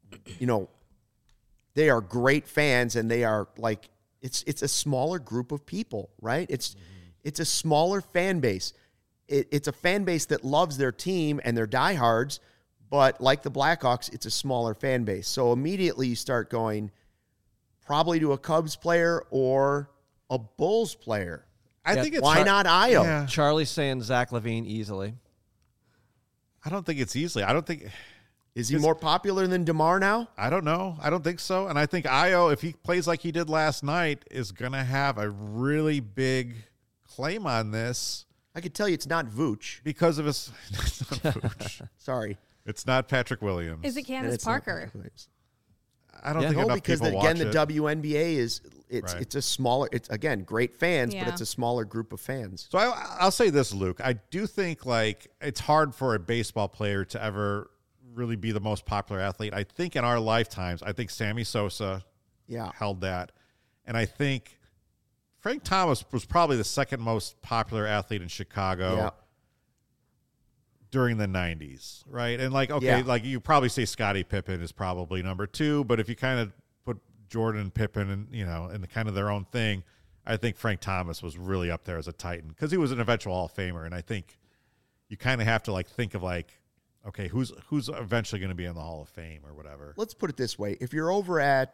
they are great fans and they are like it's a smaller group of people, right? It's a smaller fan base. it's a fan base that loves their team and they're diehards, but like the Blackhawks, it's a smaller fan base. So immediately you start going probably to a Cubs player or a Bulls player. I think it's why not Io? Yeah. Charlie's saying Zach LaVine easily. I don't think it's easily. I don't think. Is he more popular than DeMar now? I don't know. I don't think so. And I think Io, if he plays like he did last night, is going to have a really big claim on this. I could tell you it's not Vooch. Because of his. It's not Vooch. Sorry. It's not Patrick Williams. Is it Candace Parker? I don't think enough because people again, watch the it. WNBA is it's a smaller. It's again great fans, Yeah. but it's a smaller group of fans. So I'll say this, Luke. I do think like it's hard for a baseball player to ever really be the most popular athlete. I think in our lifetimes, I think Sammy Sosa held that. And I think Frank Thomas was probably the second most popular athlete in Chicago during the 90s, right? And like, okay, like you probably say Scottie Pippen is probably number 2, but if you kind of put Jordan and Pippen and, you know, in the kind of their own thing, I think Frank Thomas was really up there as a Titan because he was an eventual Hall of Famer. And I think you kind of have to like think of like, okay, who's eventually going to be in the Hall of Fame or whatever. Let's put it this way: if you're over at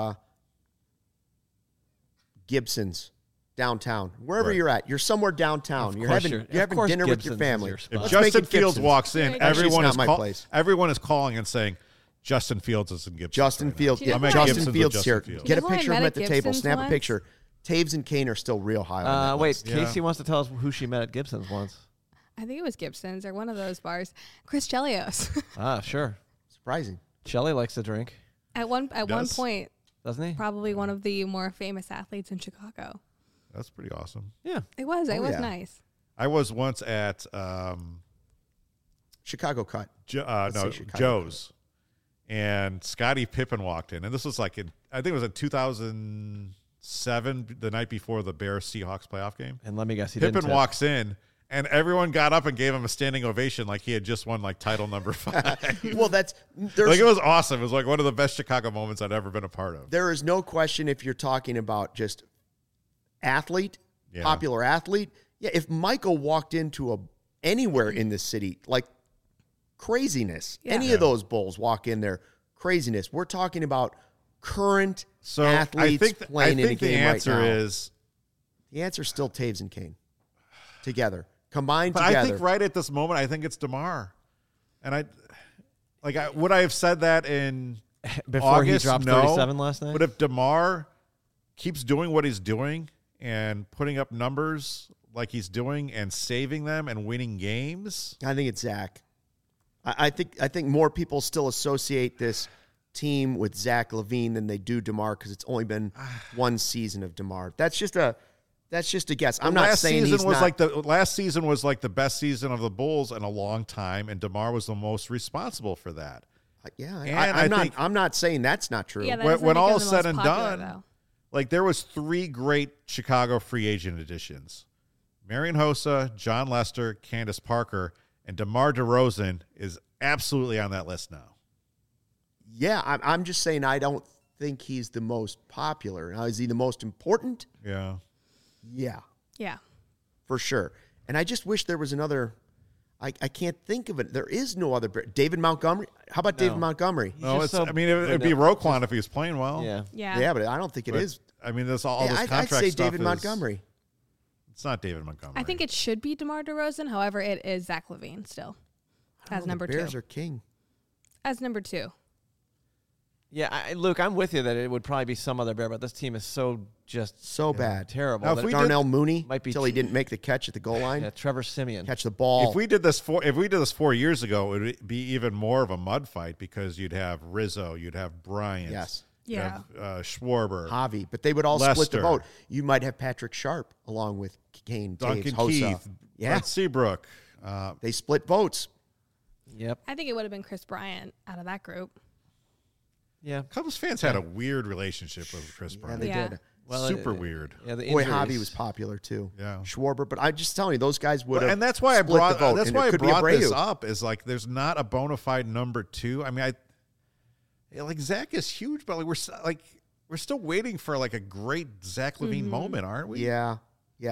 Gibson's downtown, wherever you're at, you're somewhere downtown. You're having dinner with your family. If Justin Fields walks in, everyone is calling and saying, Justin Fields is in Gibson. Justin Fields. Yeah, Justin Fields here. Get a Remember picture I of him met at the at table. Gibson's Snap a once? picture. Taves and Kane are still real high on that Wait, list. Casey wants to tell us who she met at Gibson's once. I think it was Gibson's or one of those bars. Chris Chelios. Sure. Surprising. Shelly likes to drink, At one point, doesn't he? probably one of the more famous athletes in Chicago. That's pretty awesome. Yeah. It was. It was yeah. nice. I was once at Chicago Cut. Joe's, and Scottie Pippen walked in, and this was like I think it was in 2007, the night before the Bears Seahawks playoff game. And let me guess, Pippen walks in, and everyone got up and gave him a standing ovation, like he had just won like title number 5. Well, there's like it was awesome. It was like one of the best Chicago moments I'd ever been a part of. There is no question if you're talking about just athlete, popular athlete. Yeah, if Michael walked into anywhere in the city, like craziness. Yeah. Any of those Bulls walk in there, craziness. We're talking about current athletes playing in a game right now. The answer is still Taves and Kane together, combined together. I think right at this moment, I think it's DeMar, and would I have said that in before August? He dropped No. 37 last night? But if DeMar keeps doing what he's doing and putting up numbers like he's doing and saving them and winning games, I think it's Zach. I think more people still associate this team with Zach LaVine than they do DeMar because it's only been one season of DeMar. That's just a guess. I'm not saying he's not. Last season was like the best season of the Bulls in a long time, and DeMar was the most responsible for that. I'm not saying that's not true. Yeah, that when all is is said and done, like there was 3 great Chicago free agent additions: Marian Hossa, John Lester, Candace Parker, and DeMar DeRozan is absolutely on that list now. Yeah, I'm just saying I don't think he's the most popular. Now, is he the most important? Yeah. Yeah, Yeah. for sure. And I just wish there was another. I can't think of it. There is no other. David Montgomery. How about David Montgomery? No, it'd be Roquan if he was playing well. Yeah. Yeah. But I don't think it is. I mean, this all this I'd contract say stuff David is- Montgomery. It's not David Montgomery. I think it should be DeMar DeRozan. However, it is Zach LaVine still as number the Bears 2. are king. As number 2. Yeah, Luke, I'm with you that it would probably be some other Bear, but this team is so bad. terrible. Now, if that we Darnell Mooney might be until he didn't make the catch at the goal line. yeah, Trevor Simeon. Catch the ball. If we did this 4 years ago, it would be even more of a mud fight because you'd have Rizzo, you'd have Bryant, Yes. you'd Yeah. have Schwarber, Javi, but they would all split Lester. the vote. You might have Patrick Sharp along with Kane, Duncan Taves, Hossa. Keith, Yeah, Brent Seabrook. they split votes. Yep. I think it would have been Chris Bryant out of that group. Yeah. Cubs fans had a weird relationship with Chris Yeah, Bryant. they Yeah. did. Well, Super weird. Yeah, the Boy, injuries. Javi was popular too. Yeah. Schwarber, but I'm just telling you, those guys would have. And that's why I split brought the vote, that's and why it I could be brought this Abreu. up is like there's not a bona fide number 2. I mean, like Zach is huge, but we're still waiting for like a great Zach LaVine moment, aren't we? Yeah, yeah.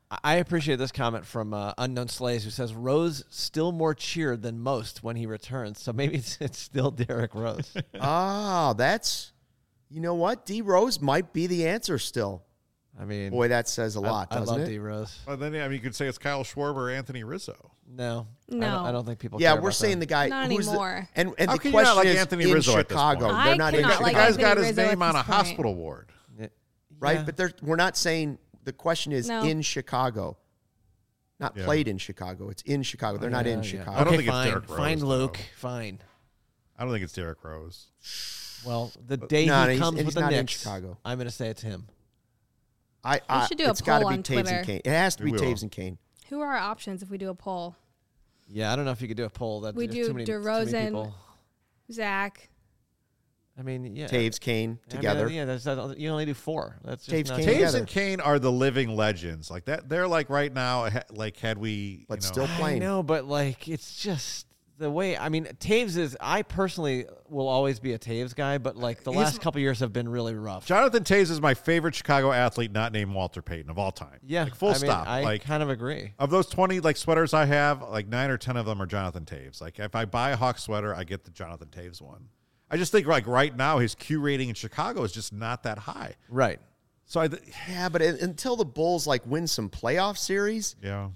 I appreciate this comment from Unknown Slays, who says Rose still more cheered than most when he returns. So maybe it's still Derrick Rose. That's, you know what? D Rose might be the answer still. I mean, boy, that says a lot, doesn't it? I love D Rose. Well, then you could say it's Kyle Schwarber or Anthony Rizzo. No. I don't think people. Yeah, care we're about saying them. the guy. Not who's anymore. And How the can you not question like is Anthony in Rizzo at this Chicago. point? They're not in cannot The like guy's got Anthony his Rizzo name at on a this point. hospital ward. right? Yeah. But we're not saying the question is No. in Chicago. Not Yeah. played in Chicago. It's in Chicago. They're not in Chicago. I don't Okay, think it's fine. Derrick Rose, Fine, though. Luke. Fine. I don't think it's Derrick Rose. Well, the day No, he he's- comes and with he's the not in Knicks, Chicago. I'm going to say it's him. We should do a it's gotta poll be on Taves Twitter. and Kane. It has to be We will. Taves and Kane. Who are our options if we do a poll? Yeah, I don't know if you could do a poll. That We there's do too many DeRozan, people. Zach. I mean, yeah. Taves, Kane I mean, together. you only do 4. That's just Taves, not Kane Taves together. and Kane are the living legends. Like that, they're like right now. Like had we, But you know, still I playing. know, but like it's just the way. I mean, Taves is. I personally will always be a Taves guy, but like the He's- last couple years have been really rough. Jonathan Taves is my favorite Chicago athlete, not named Walter Payton of all time. Yeah, like, full I mean, stop. I like kind of agree. of those 20 like sweaters I have, like 9 or 10 of them are Jonathan Taves. Like if I buy a Hawks sweater, I get the Jonathan Taves one. I just think like right now his Q rating in Chicago is just not that high. Right. So Yeah, but until the Bulls like win some playoff series, yeah.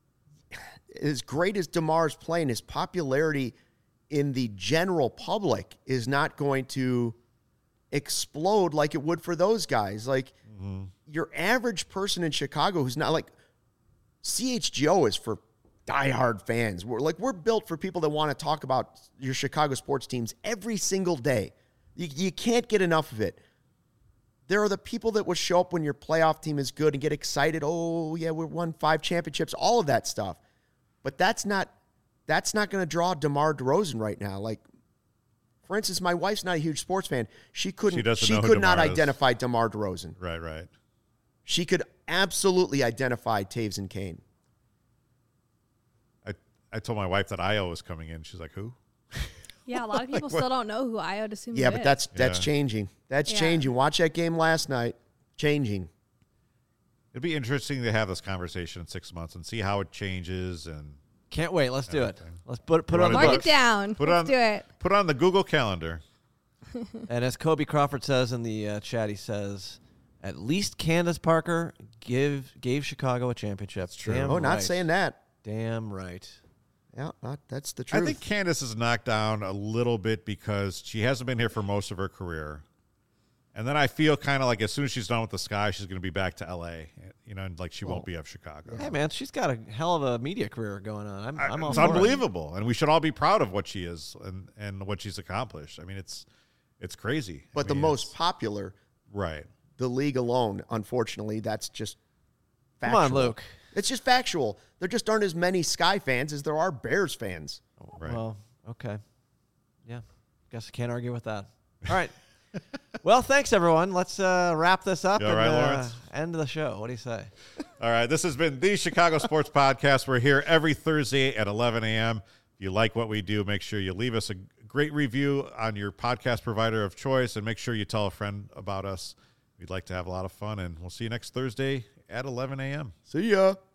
as great as DeMar's playing, his popularity in the general public is not going to explode like it would for those guys. Like your average person in Chicago who's not like CHGO is for diehard fans. We're built for people that want to talk about your Chicago sports teams every single day. You can't get enough of it. There are the people that will show up when your playoff team is good and get excited. Oh, yeah, we won 5 championships, all of that stuff. But that's not going to draw DeMar DeRozan right now. Like, for instance, my wife's not a huge sports fan. She could not DeMar is. identify DeMar DeRozan. Right. She could absolutely identify Taves and Kane. I told my wife that Io was coming in. She's like, who? Yeah, a lot of people still don't know who Io DeSumo is. Yeah, but that's Yeah. changing. That's Yeah. changing. Watch that game last night. Changing. It'd be interesting to have this conversation in 6 months and see how it changes and Can't wait. Let's do it. Everything. Let's put it on the wanna Mark do it books. down. Put Let's on- do it. put it on the Google Calendar. And as Kobe Crawford says in the chat, he says, at least Candace Parker gave Chicago a championship. That's true. Damn Oh, not right. saying that. Damn right. Yeah, that's the truth. I think Candace is knocked down a little bit because she hasn't been here for most of her career. And then I feel kind of like as soon as she's done with the Sky, she's going to be back to L.A., and like she won't be of Chicago. Hey, man, she's got a hell of a media career going on. I'm all It's for it. unbelievable, and we should all be proud of what she is and what she's accomplished. I mean, it's crazy. But I the mean, most it's- popular, right. the league alone, unfortunately, that's just Come factual. on, Luke. It's just factual. There just aren't as many Sky fans as there are Bears fans. Right. Well, okay. Yeah. Guess I can't argue with that. All right. Well, thanks, everyone. Let's wrap this up You all and right, Lawrence? end the show. What do you say? All right, this has been the Chicago Sports Podcast. We're here every Thursday at 11 a.m. If you like what we do, make sure you leave us a great review on your podcast provider of choice, and make sure you tell a friend about us. We'd like to have a lot of fun, and we'll see you next Thursday at 11 a.m. See ya.